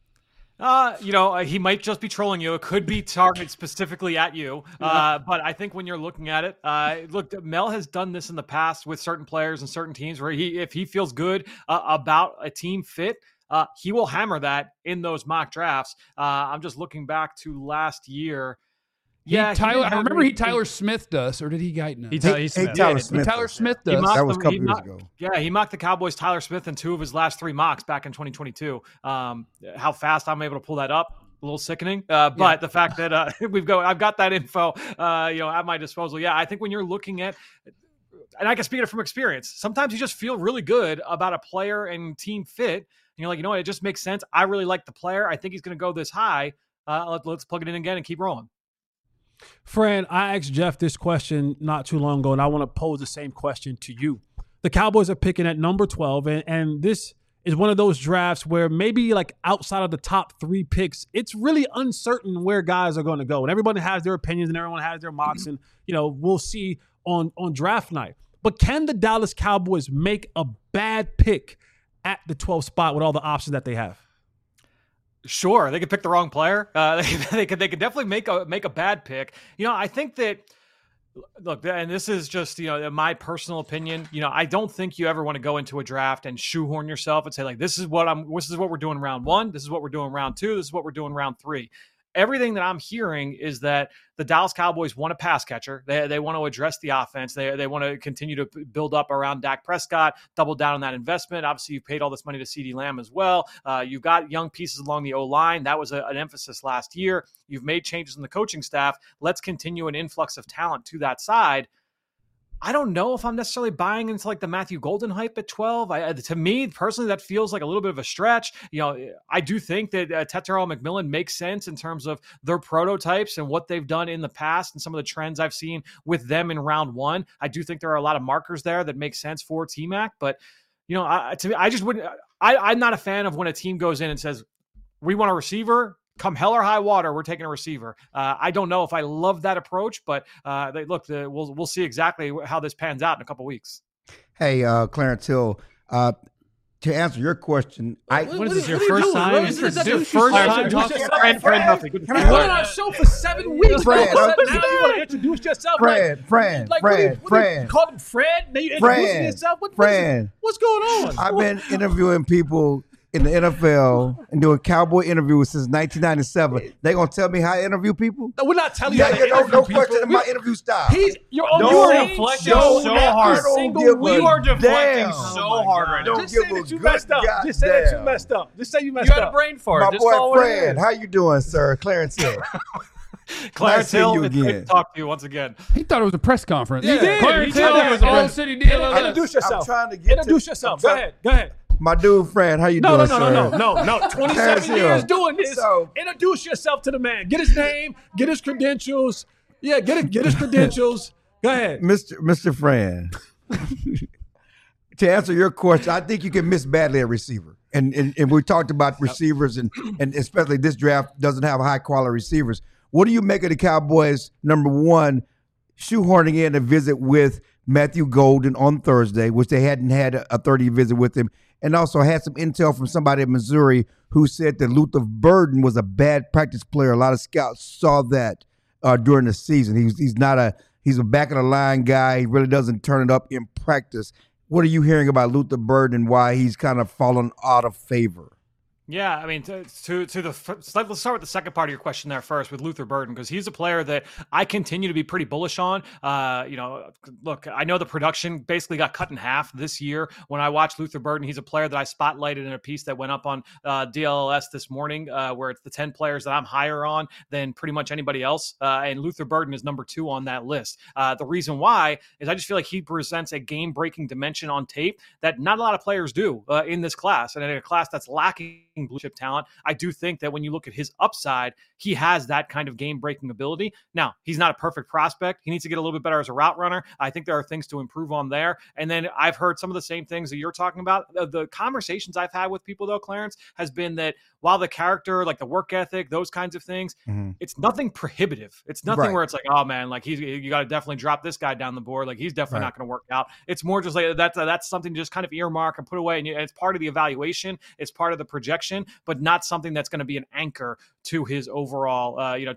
He might just be trolling you. It could be targeted specifically at you. But I think when you're looking at it, look, Mel has done this in the past with certain players and certain teams where if he feels good about a team fit, he will hammer that in those mock drafts. I'm just looking back to last year. I remember Tyler Smith us, or did he Guyton us? Tyler Smith. Tyler Smith does. That was a couple years ago. Yeah, he mocked the Cowboys Tyler Smith in 2 of his last 3 mocks back in 2022. How fast I'm able to pull that up, a little sickening. But the fact that I've got that info, at my disposal. Yeah, I think when you're looking at, and I can speak it from experience, sometimes you just feel really good about a player and team fit. And you're like, you know what, it just makes sense. I really like the player. I think he's going to go this high. Let's plug it in again and keep rolling. Fran, I asked Jeff this question not too long ago, and I want to pose the same question to you. The Cowboys are picking at number 12, and this is one of those drafts where maybe like outside of the top 3 picks, it's really uncertain where guys are going to go. And everybody has their opinions and everyone has their mocks, and we'll see on draft night. But can the Dallas Cowboys make a bad pick at the 12th spot with all the options that they have? Sure, they could pick the wrong player. They could definitely make a bad pick. I think that Look, and this is just, my personal opinion. I don't think you ever want to go into a draft and shoehorn yourself and say, like, this is what we're doing round 1. This is what we're doing round 2. This is what we're doing round 3. Everything that I'm hearing is that the Dallas Cowboys want a pass catcher. They want to address the offense. They want to continue to build up around Dak Prescott, double down on that investment. Obviously, you've paid all this money to CeeDee Lamb as well. You've got young pieces along the O-line. That was an emphasis last year. You've made changes in the coaching staff. Let's continue an influx of talent to that side. I don't know if I'm necessarily buying into like the Matthew Golden hype at 12. To me, personally, that feels like a little bit of a stretch. I do think that Tetairoa McMillan makes sense in terms of their prototypes and what they've done in the past and some of the trends I've seen with them in round 1. I do think there are a lot of markers there that make sense for T-Mac. But, to me, I just wouldn't. I'm not a fan of when a team goes in and says, we want a receiver. Come hell or high water, we're taking a receiver. I don't know if I love that approach, but we'll see exactly how this pans out in a couple weeks. Hey, Clarence Hill, to answer your question, what is this, your first time? This is your first time talking to Fran Duffy. You've been on our show for 7 weeks. Fran, now you want to introduce yourself? Fran. You called him Fred? Now you introducing yourself? What's going on? I've been interviewing people in the NFL and doing cowboy interviews since 1997. They gonna tell me how I interview people? No, we're not telling you how to interview no people. question in my interview style. You are deflecting so hard. You are deflecting so hard right now. Just say that you messed up. Just say that you messed up. Just say you messed up. You had a brain fart. My Just boy Fran, how you doing, sir? Clarence Hill. Clarence Hill, it's great to talk to you once again. He thought it was a press conference. He did. Clarence He Hill, did. It was a press- All-City deal. Introduce yourself. I'm trying to get Introduce yourself. Go ahead. My dude, Fran, how you doing, sir? No. 27 years doing this. So- Introduce yourself to the man. Get his name. Get his credentials. Yeah, get his credentials. Go ahead. Mr. Fran, to answer your question, I think you can miss badly at receiver. And we talked about receivers, and especially this draft doesn't have high-quality receivers. What do you make of the Cowboys, number one, shoehorning in a visit with Matthew Golden on Thursday, which they hadn't had a 30 visit with him, and also had some intel from somebody in Missouri who said that Luther Burden was a bad practice player. A lot of scouts saw that during the season. He's a back of the line guy. He really doesn't turn it up in practice. What are you hearing about Luther Burden and why he's kind of fallen out of favor? Yeah, I mean, let's start with the second part of your question there first with Luther Burden, because he's a player that I continue to be pretty bullish on. Look, I know the production basically got cut in half this year. When I watch Luther Burden, he's a player that I spotlighted in a piece that went up on DLS this morning, where it's the 10 players that I'm higher on than pretty much anybody else. And Luther Burden is number 2 on that list. The reason why is I just feel like he presents a game-breaking dimension on tape that not a lot of players do in this class, and in a class that's lacking blue chip talent. I do think that when you look at his upside, he has that kind of game-breaking ability. Now, he's not a perfect prospect. He needs to get a little bit better as a route runner. I think there are things to improve on there. And then I've heard some of the same things that you're talking about. The conversations I've had with people, though, Clarence, has been that while the character, like the work ethic, those kinds of things, it's nothing prohibitive. It's nothing where it's like, oh man, like you got to definitely drop this guy down the board. Like he's definitely not going to work out. It's more just like that's something to just kind of earmark and put away. And it's part of the evaluation. It's part of the projection, but not something that's going to be an anchor to his overall,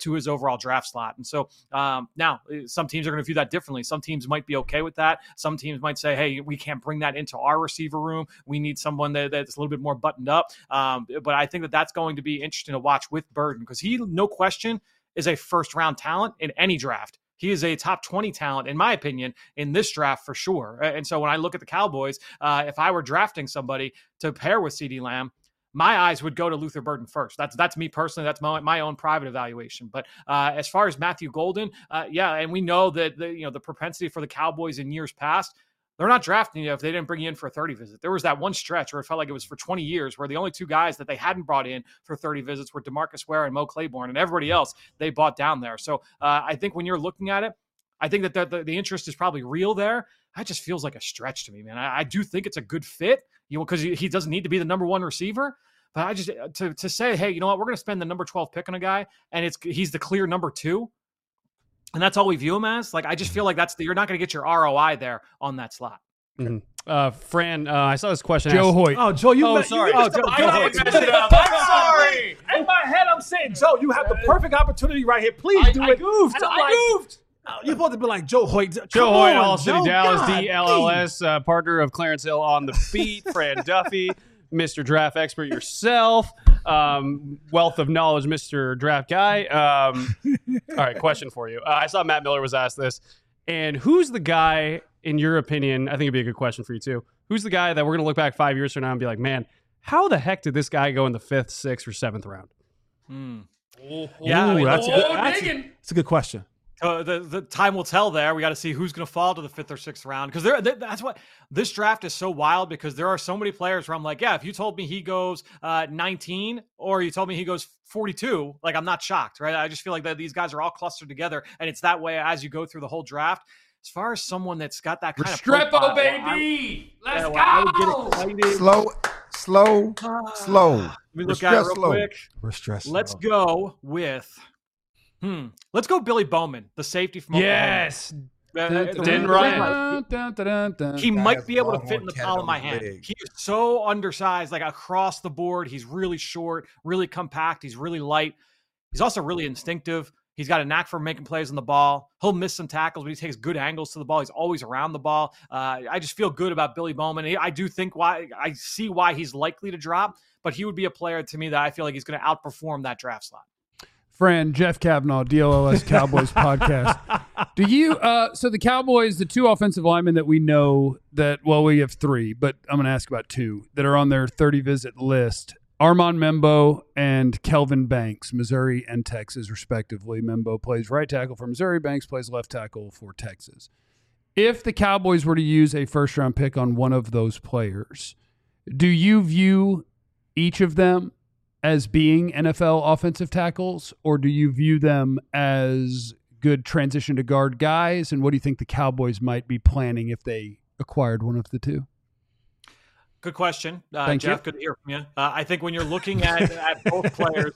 draft slot. And so now some teams are going to view that differently. Some teams might be okay with that. Some teams might say, hey, we can't bring that into our receiver room. We need someone that's a little bit more buttoned up. But I think that's going to be interesting to watch with Burden, because he, no question, is a first-round talent in any draft. He is a top 20 talent, in my opinion, in this draft for sure. And so when I look at the Cowboys, if I were drafting somebody to pair with CeeDee Lamb, my eyes would go to Luther Burden first. That's me personally. That's my own private evaluation. But as far as Matthew Golden, and we know that the propensity for the Cowboys in years past, they're not drafting you if they didn't bring you in for a 30 visit. There was that one stretch where it felt like it was for 20 years where the only 2 guys that they hadn't brought in for 30 visits were DeMarcus Ware and Mo Claiborne, and everybody else they bought down there. So I think when you're looking at it, I think that the interest is probably real there. That just feels like a stretch to me, man. I do think it's a good fit, because he doesn't need to be the number 1 receiver. But I just to say, hey, you know what, we're going to spend the number 12 pick on a guy, and he's the clear number 2. And that's all we view him as. Like, I just feel like you're not going to get your ROI there on that slot. Mm-hmm. Fran, I saw this question. Joe Hoyt. Oh, Joe, sorry. I'm sorry. In my head, I'm saying, Joe, you have the perfect opportunity right here. Please do it. I goofed. You're supposed to be like Joe Hoyt. Joe Come Hoyt, on, All City Joe. Dallas, God, DLLS, partner of Clarence Hill on the beat, Fran Duffy, Mr. Draft Expert yourself, wealth of knowledge, Mr. Draft Guy. All right, question for you. I saw Matt Miller was asked this. And who's the guy, in your opinion, I think it'd be a good question for you too, who's the guy that we're going to look back 5 years from now and be like, man, how the heck did this guy go in the 5th, 6th, or 7th round? Yeah, that's a good question. The time will tell there. We got to see who's going to fall to the 5th or 6th round. Because that's what this draft is so wild, because there are so many players where I'm like, yeah, if you told me he goes 19 or you told me he goes 42, like, I'm not shocked, right? I just feel like that these guys are all clustered together, and it's that way as you go through the whole draft. As far as someone that's got that kind of Restrepo, baby, let's go. I would get excited. Slow. Let me look at it real quick. We're stressed. Let's go with. Let's go Billy Bowman, the safety from Oklahoma. Yes. He might be able to fit in the palm of my hand. He is so undersized, like across the board. He's really short, really compact. He's really light. He's also really instinctive. He's got a knack for making plays on the ball. He'll miss some tackles, but he takes good angles to the ball. He's always around the ball. I just feel good about Billy Bowman. I do think I see why he's likely to drop, but he would be a player to me that I feel like he's going to outperform that draft slot. Friend Jeff Kavanaugh, DLLS Cowboys podcast. Do you? So the Cowboys, the 2 offensive linemen that we know that, well, we have 3, but I'm going to ask about 2 that are on their 30 visit list. Armand Membo and Kelvin Banks, Missouri and Texas, respectively. Membo plays right tackle for Missouri. Banks plays left tackle for Texas. If the Cowboys were to use a first-round pick on one of those players, do you view each of them as being NFL offensive tackles, or do you view them as good transition to guard guys? And what do you think the Cowboys might be planning if they acquired one of the 2? Good question, Thank Jeff. you. Good to hear from you. I think when you're looking at both players,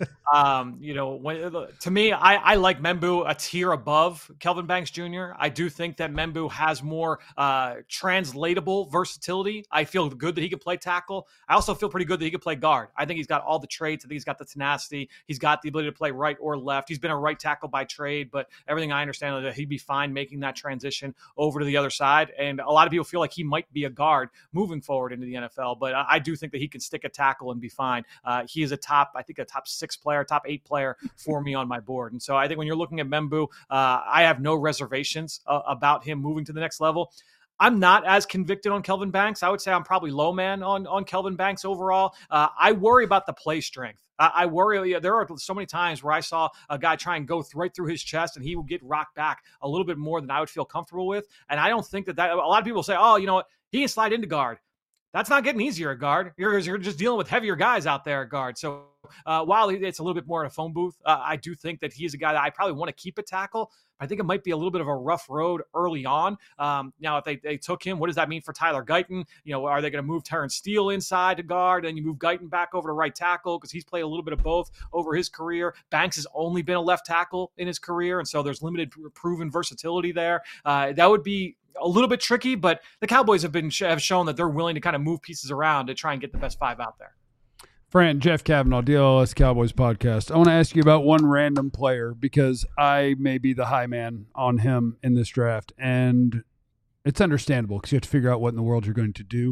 to me, I like Membu a tier above Kelvin Banks Jr. I do think that Membu has more translatable versatility. I feel good that he can play tackle. I also feel pretty good that he can play guard. I think he's got all the traits. I think he's got the tenacity. He's got the ability to play right or left. He's been a right tackle by trade, but everything I understand is that he'd be fine making that transition over to the other side. And a lot of people feel like he might be a guard moving forward into the NFL. But I do think that he can stick a tackle and be fine. He is a top 6 player, top 8 player for me on my board. And so I think when you're looking at Membu, I have no reservations about him moving to the next level. I'm not as convicted on Kelvin Banks. I would say I'm probably low man on Kelvin Banks overall. I worry about the play strength. I worry. There are so many times where I saw a guy try and go right through his chest, and he would get rocked back a little bit more than I would feel comfortable with. And I don't think that a lot of people say, oh, you know what, he can slide into guard. That's not getting easier at guard. You're just dealing with heavier guys out there at guard. So while it's a little bit more in a phone booth, I do think that he's a guy that I probably want to keep at tackle. I think it might be a little bit of a rough road early on. Now, if they took him, what does that mean for Tyler Guyton? Are they going to move Terrence Steele inside to guard and you move Guyton back over to right tackle because he's played a little bit of both over his career? Banks has only been a left tackle in his career, and so there's limited proven versatility there. That would be a little bit tricky, but the Cowboys have shown that they're willing to kind of move pieces around to try and get the best 5 out there. Friend Jeff Kavanaugh, DLLS Cowboys podcast. I want to ask you about one random player because I may be the high man on him in this draft, and it's understandable because you have to figure out what in the world you're going to do.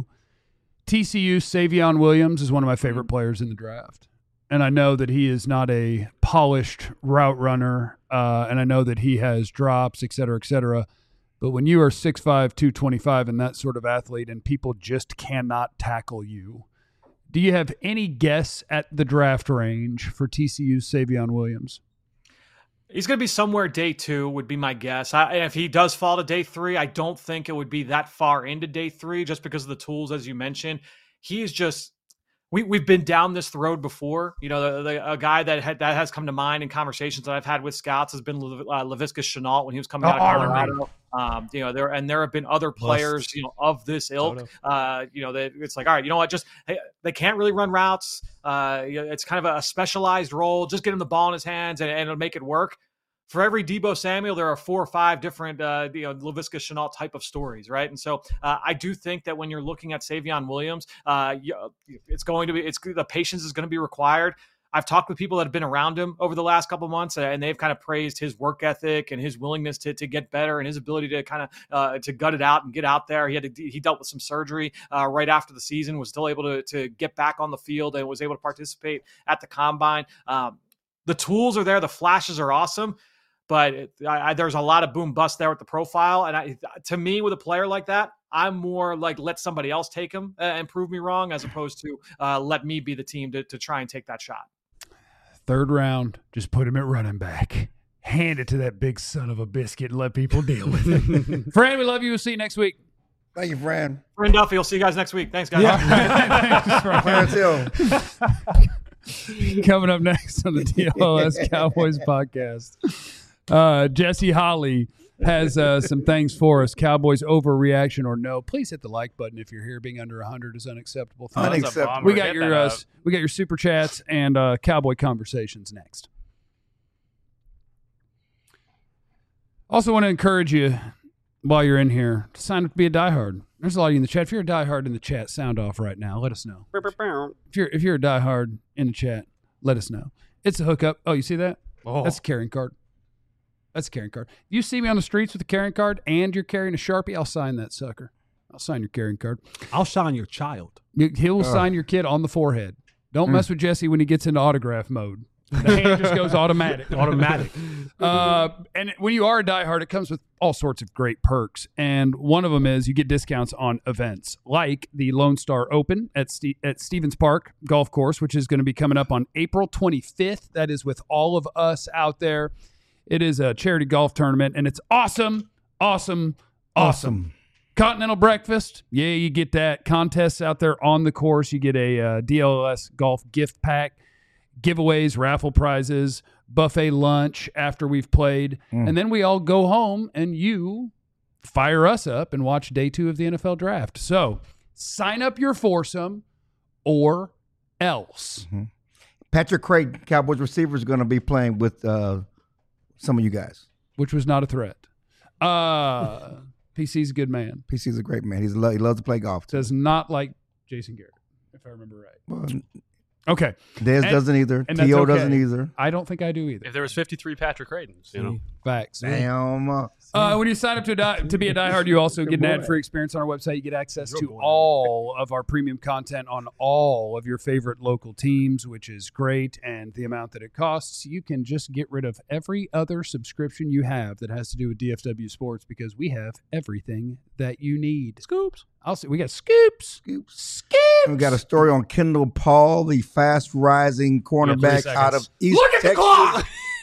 TCU Savion Williams is one of my favorite players in the draft, and I know that he is not a polished route runner, and I know that he has drops, et cetera, et cetera. But when you are 6'5", 225 and that sort of athlete and people just cannot tackle you, do you have any guess at the draft range for TCU's Savion Williams? He's going to be somewhere day 2 would be my guess. And if he does fall to day 3, I don't think it would be that far into day 3 just because of the tools, as you mentioned. He is just we've been down this road before. A guy that has come to mind in conversations that I've had with scouts has been Laviska Shenault when he was coming out of Colorado. There have been other players, of this ilk. That it's like, all right, you know what? They can't really run routes. It's kind of a specialized role. Just get him the ball in his hands and it'll make it work. For every Deebo Samuel, there are 4 or 5 different, Laviska Shenault type of stories, right? And so I do think that when you're looking at Savion Williams, the patience is going to be required. I've talked with people that have been around him over the last couple of months, and they've kind of praised his work ethic and his willingness to get better and his ability to kind of to gut it out and get out there. He dealt with some surgery right after the season, was still able to get back on the field and was able to participate at the combine. The tools are there. The flashes are awesome. But there's a lot of boom bust there with the profile. And to me, with a player like that, I'm more like let somebody else take him and prove me wrong as opposed to let me be the team to try and take that shot. Third round, just put him at running back. Hand it to that big son of a biscuit and let people deal with it. Fran, we love you. We'll see you next week. Thank you, Fran. Fran Duffy, we'll see you guys next week. Thanks, guys. Yeah. Clarence Hill. Coming up next on the DLS Cowboys podcast, Jesse Holley has some things for us. Cowboys overreaction or no? Please hit the like button if you're here. Being under 100 is unacceptable. Unacceptable. We got your super chats and Cowboy conversations next. Also want to encourage you while you're in here to sign up to be a diehard. There's a lot of you in the chat. If you're a diehard in the chat, sound off right now. Let us know. If you're a diehard in the chat, let us know. It's a hookup. Oh, you see that? Oh. That's a carrying card. That's a carrying card. If you see me on the streets with a carrying card and you're carrying a Sharpie, I'll sign that sucker. I'll sign your carrying card. I'll sign your child. He'll sign your kid on the forehead. Don't mess with Jesse when he gets into autograph mode. The hand just goes automatic. And when you are a diehard, it comes with all sorts of great perks. And one of them is you get discounts on events like the Lone Star Open at Stevens Park Golf Course, which is going to be coming up on April 25th. That is with all of us out there. It is a charity golf tournament, and it's awesome. Continental breakfast. Yeah, you get that. Contests out there on the course. You get a DLS golf gift pack. Giveaways, raffle prizes, buffet lunch after we've played. And then we all go home and you fire us up and watch day 2 of the NFL draft. So sign up your foursome or else. Patrick Creighton, Cowboys receiver, is going to be playing with some of you guys. Which was not a threat. PC's a good man. PC's a great man. He loves to play golf. Does not like Jason Garrett, if I remember right. Well, okay. Dez doesn't either. T.O. doesn't either. I don't think I do either. If there was 53 Patrick Creightons, you know. Facts. Damn. When you sign up to be a diehard, you also get an ad-free experience on our website. You get access to all of our premium content on all of your favorite local teams, which is great. And the amount that it costs, you can just get rid of every other subscription you have that has to do with DFW Sports because we have everything that you need. Scoops. We got scoops. We got a story on Kendall Paul, the fast-rising cornerback out of East Texas. The clock.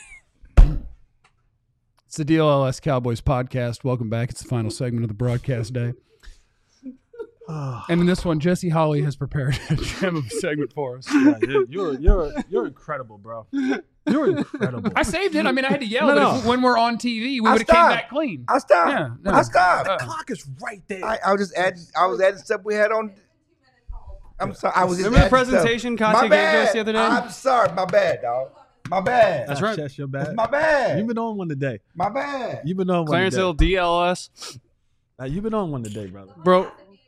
It's the DLS Cowboys podcast. Welcome back. It's the final segment of the broadcast day. And in this one, Jesse Holley has prepared a gem of a segment for us. Yeah, you're incredible, bro. You're incredible. I saved it. I mean, I had to yell, but when we're on TV, we would have came back clean. I stopped. I stopped. The clock is right there. I was adding stuff we had on. I'm sorry. I was just remember the presentation Conte gave us the other day? I'm sorry. My bad, dog. My bad. That's right. That's your bad. That's my bad. You've been on one today. My bad. You've been on one Clarence today. Hill, DLS. You've been on one today, brother. Bro.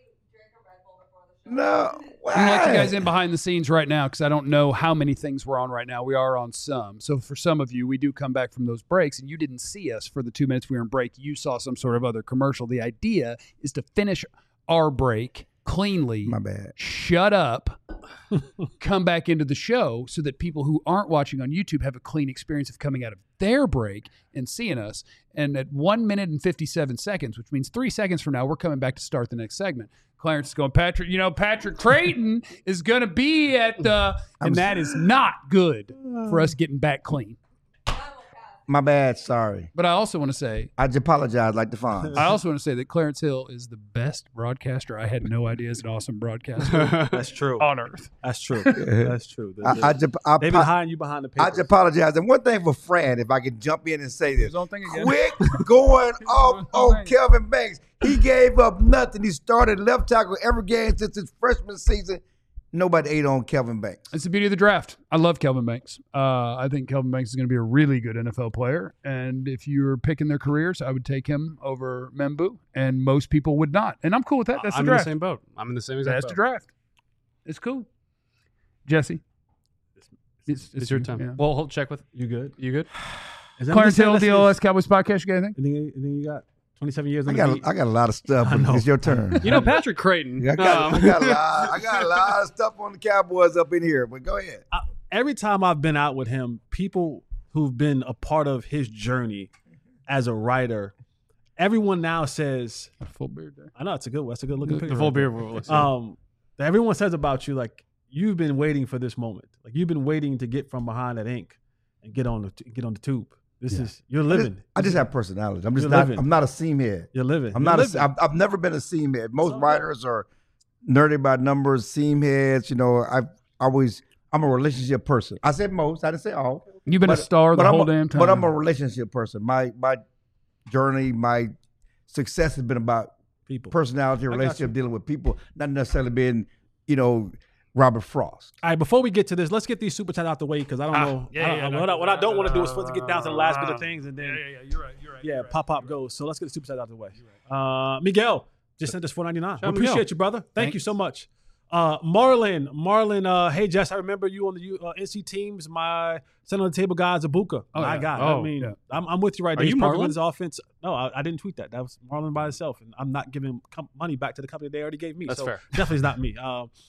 No. I'm going to let you guys in behind the scenes right now because I don't know how many things we're on right now. We are on some. So for some of you, we do come back from those breaks, and you didn't see us for the 2 minutes we were in break. You saw some sort of other commercial. The idea is to finish our break cleanly. My bad. Shut up. Come back into the show so that people who aren't watching on YouTube have a clean experience of coming out of their break and seeing us. And at 1 minute and 57 seconds, which means 3 seconds from now, we're coming back to start the next segment. Clarence is going, Patrick Creighton is going to be at the, and that is not good for us getting back clean. My bad. Sorry. But I also want to say, I just apologize like the Fonz. I also want to say that Clarence Hill is the best broadcaster. I had no idea is an awesome broadcaster. That's true. On earth. That's true. That's true. They behind you behind the papers. I just apologize. And one thing for Fran, if I could jump in and say this. His own thing again. Quick going off on Kelvin Banks. He gave up nothing. He started left tackle every game since his freshman season. Nobody ate on Kelvin Banks. It's the beauty of the draft. I love Kelvin Banks. I think Kelvin Banks is going to be a really good NFL player. And if you're picking their careers, I would take him over Membu. And most people would not. And I'm cool with that. That's the draft. I'm in the same boat. I'm in the same exact boat. That's the draft. It's cool. Jesse. It's your time. Yeah. Well, hold check with You good? you. Good. Is that Clarence Hill, what this DLS is? Cowboys podcast. You got anything? Anything you got? 27 years. I on got the beat? I got a lot of stuff. I know. It's your turn. You know Patrick Creighton. I got a lot of stuff on the Cowboys up in here. But go ahead. Every time I've been out with him, people who've been a part of his journey as a writer, everyone now says, A full beard there. I know it's a good one. That's a good looking picture. the full right there. beer rule. Everyone says about you, like, you've been waiting for this moment. Like, you've been waiting to get from behind that ink and get on the tube. You're living. I just have personality. living. I'm not a seam head. You're living. I'm You're not. living. I've never been a seam head. Most writers are nerdy about numbers, seam heads. You know, I'm a relationship person. I said most. I didn't say all. You've been a star the whole damn time. But I'm a relationship person. My journey, my success has been about People. personality, relationship, dealing with people, not necessarily being, Robert Frost. All right, before we get to this, let's get these super chats out the way because I don't know. What I don't want to do is supposed to get down to the last bit of things and then You're right. yeah, pop goes. So let's get the super chats out the way. Miguel just sent us $4.99. We appreciate Miguel. you, brother. Thank you so much. Marlon, hey Jess, I remember you on the NC teams. My center on the table guy is Abuka. My guy. Oh, I mean, yeah. I'm with you right Are there. He's you perfect Marlon? with his offense. No, I didn't tweet that. That was Marlon by himself, and I'm not giving money back to the company they already gave me. That's so fair. Definitely is not me.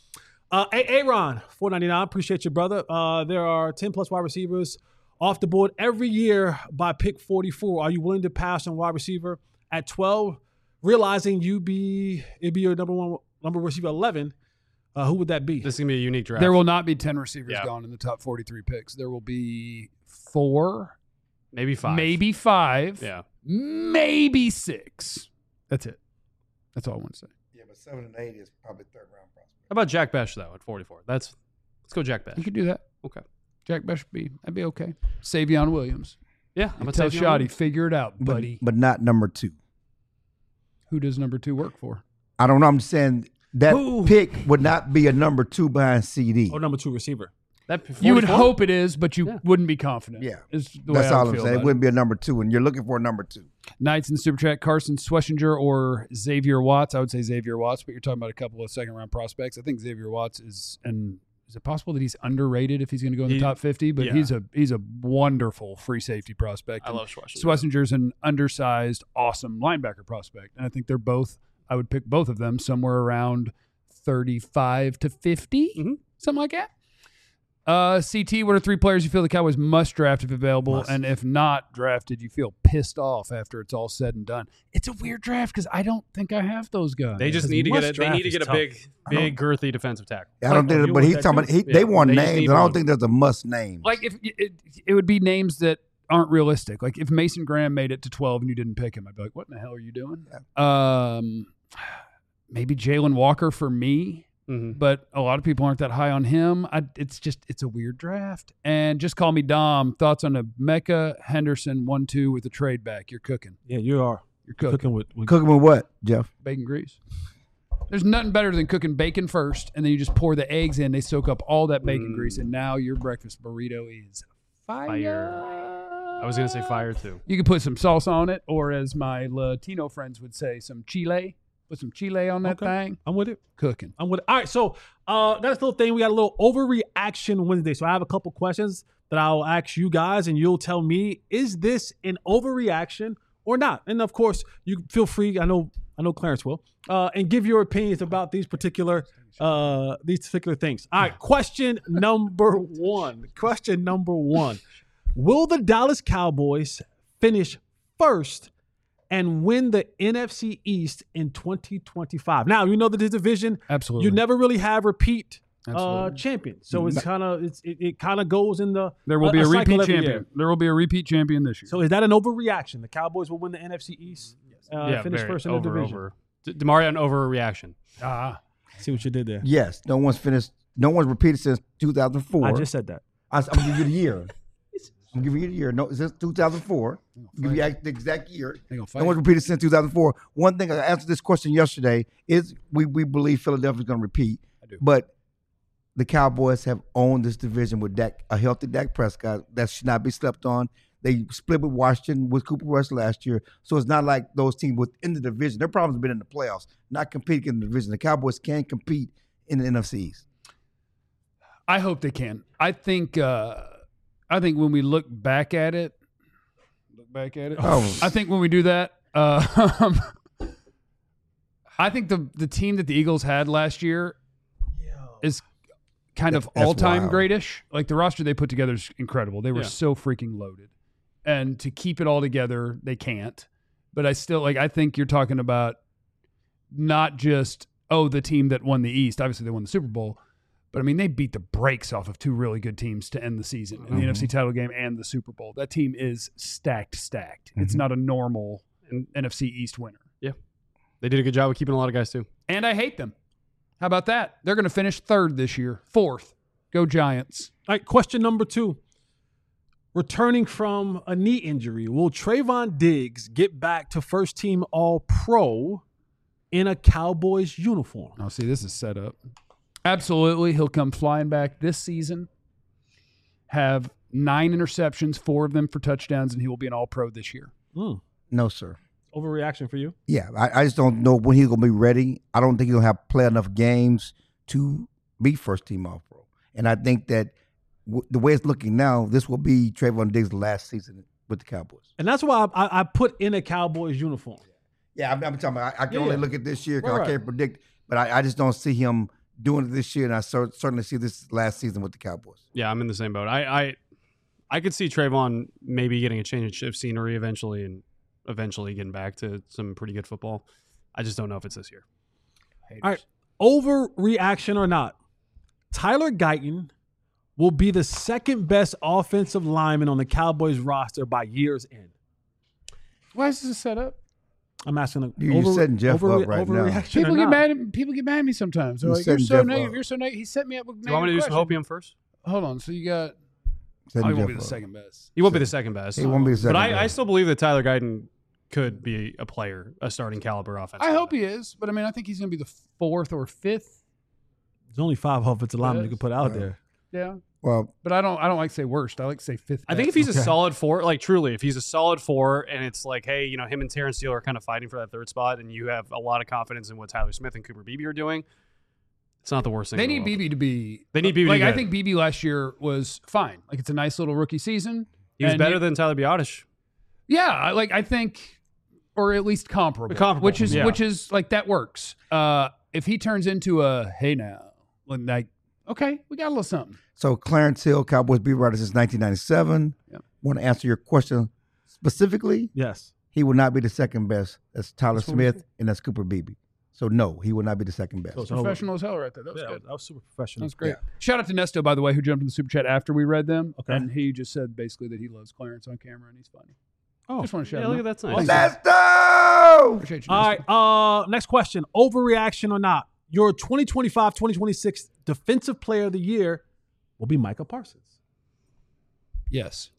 Aaron, $4.99. Appreciate you, brother. There are 10 plus wide receivers off the board every year by pick 44. Are you willing to pass on wide receiver at 12, realizing it'd be your number receiver 11? Who would that be? This is gonna be a unique draft. There will not be 10 receivers Yeah. gone in the top 43 picks. There will be 4, maybe 5. maybe 5, Yeah. maybe 6. That's it. That's all I want to say. Yeah, but 7 and 8 is probably third round prospect. How about Jack Besh though at 44? Let's go Jack Besh. You could do that. Okay. Jack Besh that'd be okay. Savion Williams. Yeah. I'm tell Shoddy, figure it out, buddy. But not number 2. Who does number 2 work for? I don't know. I'm saying that Who? pick would not be a number 2 behind CD. Or number 2 receiver. That You would 44? hope it is, but you wouldn't be confident. Yeah. Is the way That's I all would I'm feel saying. It about wouldn't be a number 2, and you're looking for a number 2. Knights in the Super Chat, Carson Schlesinger or Xavier Watts. I would say Xavier Watts, but you're talking about a couple of second-round prospects. I think Xavier Watts is it possible that he's underrated if he's going to go in the top 50? But yeah. he's a wonderful free safety prospect. I love Schlesinger. Schlesinger's an undersized, awesome linebacker prospect. And I think they're both, I would pick both of them somewhere around 35 to 50, something like that. CT, what are 3 players you feel the Cowboys must draft if available? And if not drafted, you feel pissed off after it's all said and done? It's a weird draft because I don't think I have those guys. They just need to get a big girthy defensive tackle. I don't think, but he's talking about they want They just names, need and I don't one. think there's a must name. Like, if it would be names that aren't realistic. Like, if Mason Graham made it to 12 and you didn't pick him, I'd be like, what in the hell are you doing? Maybe Jalen Walker for me. But a lot of people aren't that high on him. It's a weird draft. And just call me Dom. Thoughts on a Mecca Henderson 1-2 with a trade back? You're cooking. Yeah, you are. You're cooking. with Cooking with what, Jeff? Bacon grease. There's nothing better than cooking bacon first, and then you just pour the eggs in. They soak up all that bacon grease, and now your breakfast burrito is fire. I was gonna say fire too. You can put some salsa on it, or as my Latino friends would say, some chile. Put some chile on that thing. I'm with it. Cooking. I'm with it. All right, so that's the little thing. We got a little overreaction Wednesday. So I have a couple questions that I'll ask you guys, and you'll tell me, is this an overreaction or not? And of course, you feel free. I know Clarence will, and give your opinions about these particular things. All right, question number one. Will the Dallas Cowboys finish first and win the NFC East in 2025? Now, you know that this division, Absolutely. you never really have repeat Absolutely. champions. So it's kind of it kind of goes in the There will be a cycle repeat every champion. year. There will be a repeat champion this year. So is that an overreaction? The Cowboys will win the NFC East, finish very first in the division. over. DeMario, an overreaction. See what you did there. Yes. No one's repeated since 2004. I just said that. I'm gonna give you the year. I'm giving you the year. No, since 2004. I'll give you the exact year. They gonna fight. No one's repeated since 2004. One thing I answered this question yesterday is we believe Philadelphia's going to repeat. I do. But the Cowboys have owned this division with a healthy Dak Prescott. That should not be slept on. They split with Washington with Cooper Rush last year. So it's not like those teams within the division. Their problems have been in the playoffs, not competing in the division. The Cowboys can compete in the NFC East. I hope they can. I think when we look back at it, I think when we do that, I think the team that the Eagles had last year is kind of all-time greatish. Like the roster they put together is incredible. They were so freaking loaded. And to keep it all together, they can't. But I still I think you're talking about not just the team that won the East. Obviously they won the Super Bowl. But I mean they beat the brakes off of two really good teams to end the season in the NFC title game and the Super Bowl. That team is stacked. It's not a normal NFC East winner. Yeah. They did a good job of keeping a lot of guys too. And I hate them. How about that? They're going to finish 3rd this year. 4th. Go Giants. All right, question number 2. Returning from a knee injury, will Trayvon Diggs get back to first-team All-Pro in a Cowboys uniform? Oh, see, this is set up. Absolutely. He'll come flying back this season, have 9 interceptions, 4 of them for touchdowns, and he will be an All-Pro this year. No, sir. Overreaction for you? Yeah, I just don't know when he's going to be ready. I don't think he'll have play enough games to be first-team All-Pro. And I think that the way it's looking now, this will be Trayvon Diggs' last season with the Cowboys. And that's why I put in a Cowboys uniform. Yeah, I'm talking about I can only look at this year because I can't predict. But I just don't see him doing it this year, and I certainly see this last season with the Cowboys. Yeah, I'm in the same boat. I could see Trayvon maybe getting a change of scenery eventually and eventually getting back to some pretty good football. I just don't know if it's this year. Haters. All right, overreaction or not, Tyler Guyton will be the second best offensive lineman on the Cowboys roster by year's end. Why is this set up? I'm asking. You're setting Jeff up right now. People get mad at me sometimes. They're like, "You're so negative. You're so negative." He set me up with. Do you want me to do some hopium first? Hold on. So you got. He won't be the second best. He won't be the second best. He won't be the second best. But I still believe that Tyler Guyton could be a player, a starting caliber offensive. I hope he is, but I mean, I think he's going to be the 4th or 5th. There's only 5 offensive linemen you can put out there. Yeah. Well, but I don't like to say worst. I like to say 5th. I think if he's a solid 4, like truly, if he's a solid 4, and it's like, hey, him and Terrence Steele are kind of fighting for that 3rd spot, and you have a lot of confidence in what Tyler Smith and Cooper Beebe are doing, it's not the worst thing. They need Beebe to be. They need Beebe. Like I think Beebe last year was fine. Like it's a nice little rookie season. He was better than Tyler Biotish. Yeah, I think, or at least comparable. Which is like that works. If he turns into a hey now, like okay, we got a little something. So Clarence Hill, Cowboys beat writer since 1997. Yep. Want to answer your question specifically? Yes. He will not be the second best. That's Tyler Smith and that's Cooper Beebe. So no, he will not be the second best. So professional as hell right there. That was good. That was super professional. That's great. Yeah. Shout out to Nesto, by the way, who jumped in the super chat after we read them. Okay. And he just said basically that he loves Clarence on camera and he's funny. Oh, just want to shout look at that's nice. Nesto! Appreciate you, All Nesto. right. Next question. Overreaction or not? Your 2025-2026 Defensive Player of the Year will be Micah Parsons. Yes.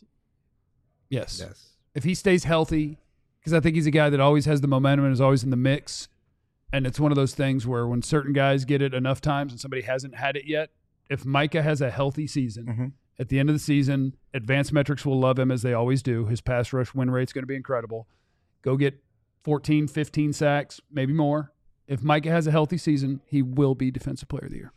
If he stays healthy, because I think he's a guy that always has the momentum and is always in the mix. And it's one of those things where when certain guys get it enough times and somebody hasn't had it yet, if Micah has a healthy season, at the end of the season, advanced metrics will love him as they always do. His pass rush win rate's going to be incredible. Go get 14, 15 sacks, maybe more. If Micah has a healthy season, he will be Defensive Player of the Year.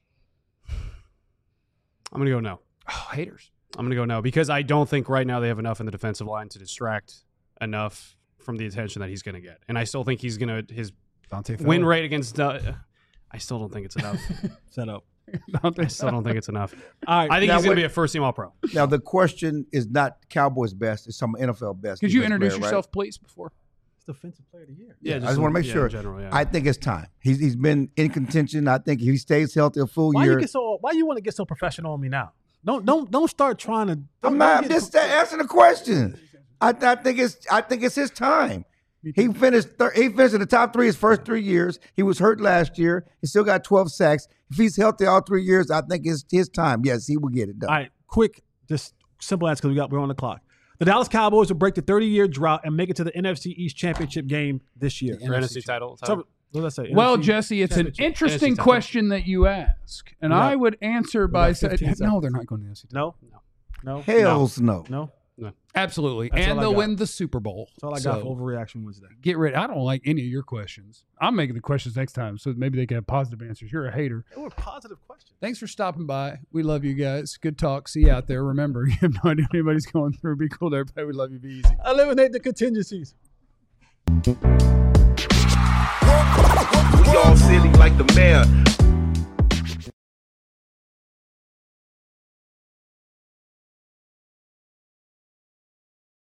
I'm going to go no. Oh, haters. I'm going to go no because I don't think right now they have enough in the defensive line to distract enough from the attention that he's going to get. And I still think he's going to – his win rate against I still don't think it's enough. Set up. I still don't think it's enough. All right. I think he's going to be a first-team All-Pro. Now, the question is not Cowboys best. It's some NFL best. Could you introduce yourself, please, before? Defensive Player of the Year. Yeah, I just want to make sure. In general, yeah. I think it's time. He's been in contention. I think if he stays healthy a full year. Why you want to get so professional on me now? Don't start trying to. I'm just answering the question. I think it's his time. He finished in the top 3 his first 3 years. He was hurt last year. He still got 12 sacks. If he's healthy all 3 years, I think it's his time. Yes, he will get it done. All right, quick, just simple answer because we're on the clock. The Dallas Cowboys will break the 30-year drought and make it to the NFC East Championship game this year. NFC title. So, what did I say? Well, NFC Jesse, it's an interesting question that you ask. And I would answer by saying, no, they're not going to the NFC title. No. Hells no. No. No. Absolutely. That's all And I they'll got. win the Super Bowl. That's all I got for Overreaction Wednesday. Get ready. I don't like any of your questions. I'm making the questions next time, so maybe they can have positive answers. You're a hater. They were positive questions. Thanks for stopping by. We love you guys. Good talk. See you out there. Remember, you have no idea what anybody's going through. Be cool to everybody. We love you. Be easy. Eliminate the contingencies. We all silly like the mayor.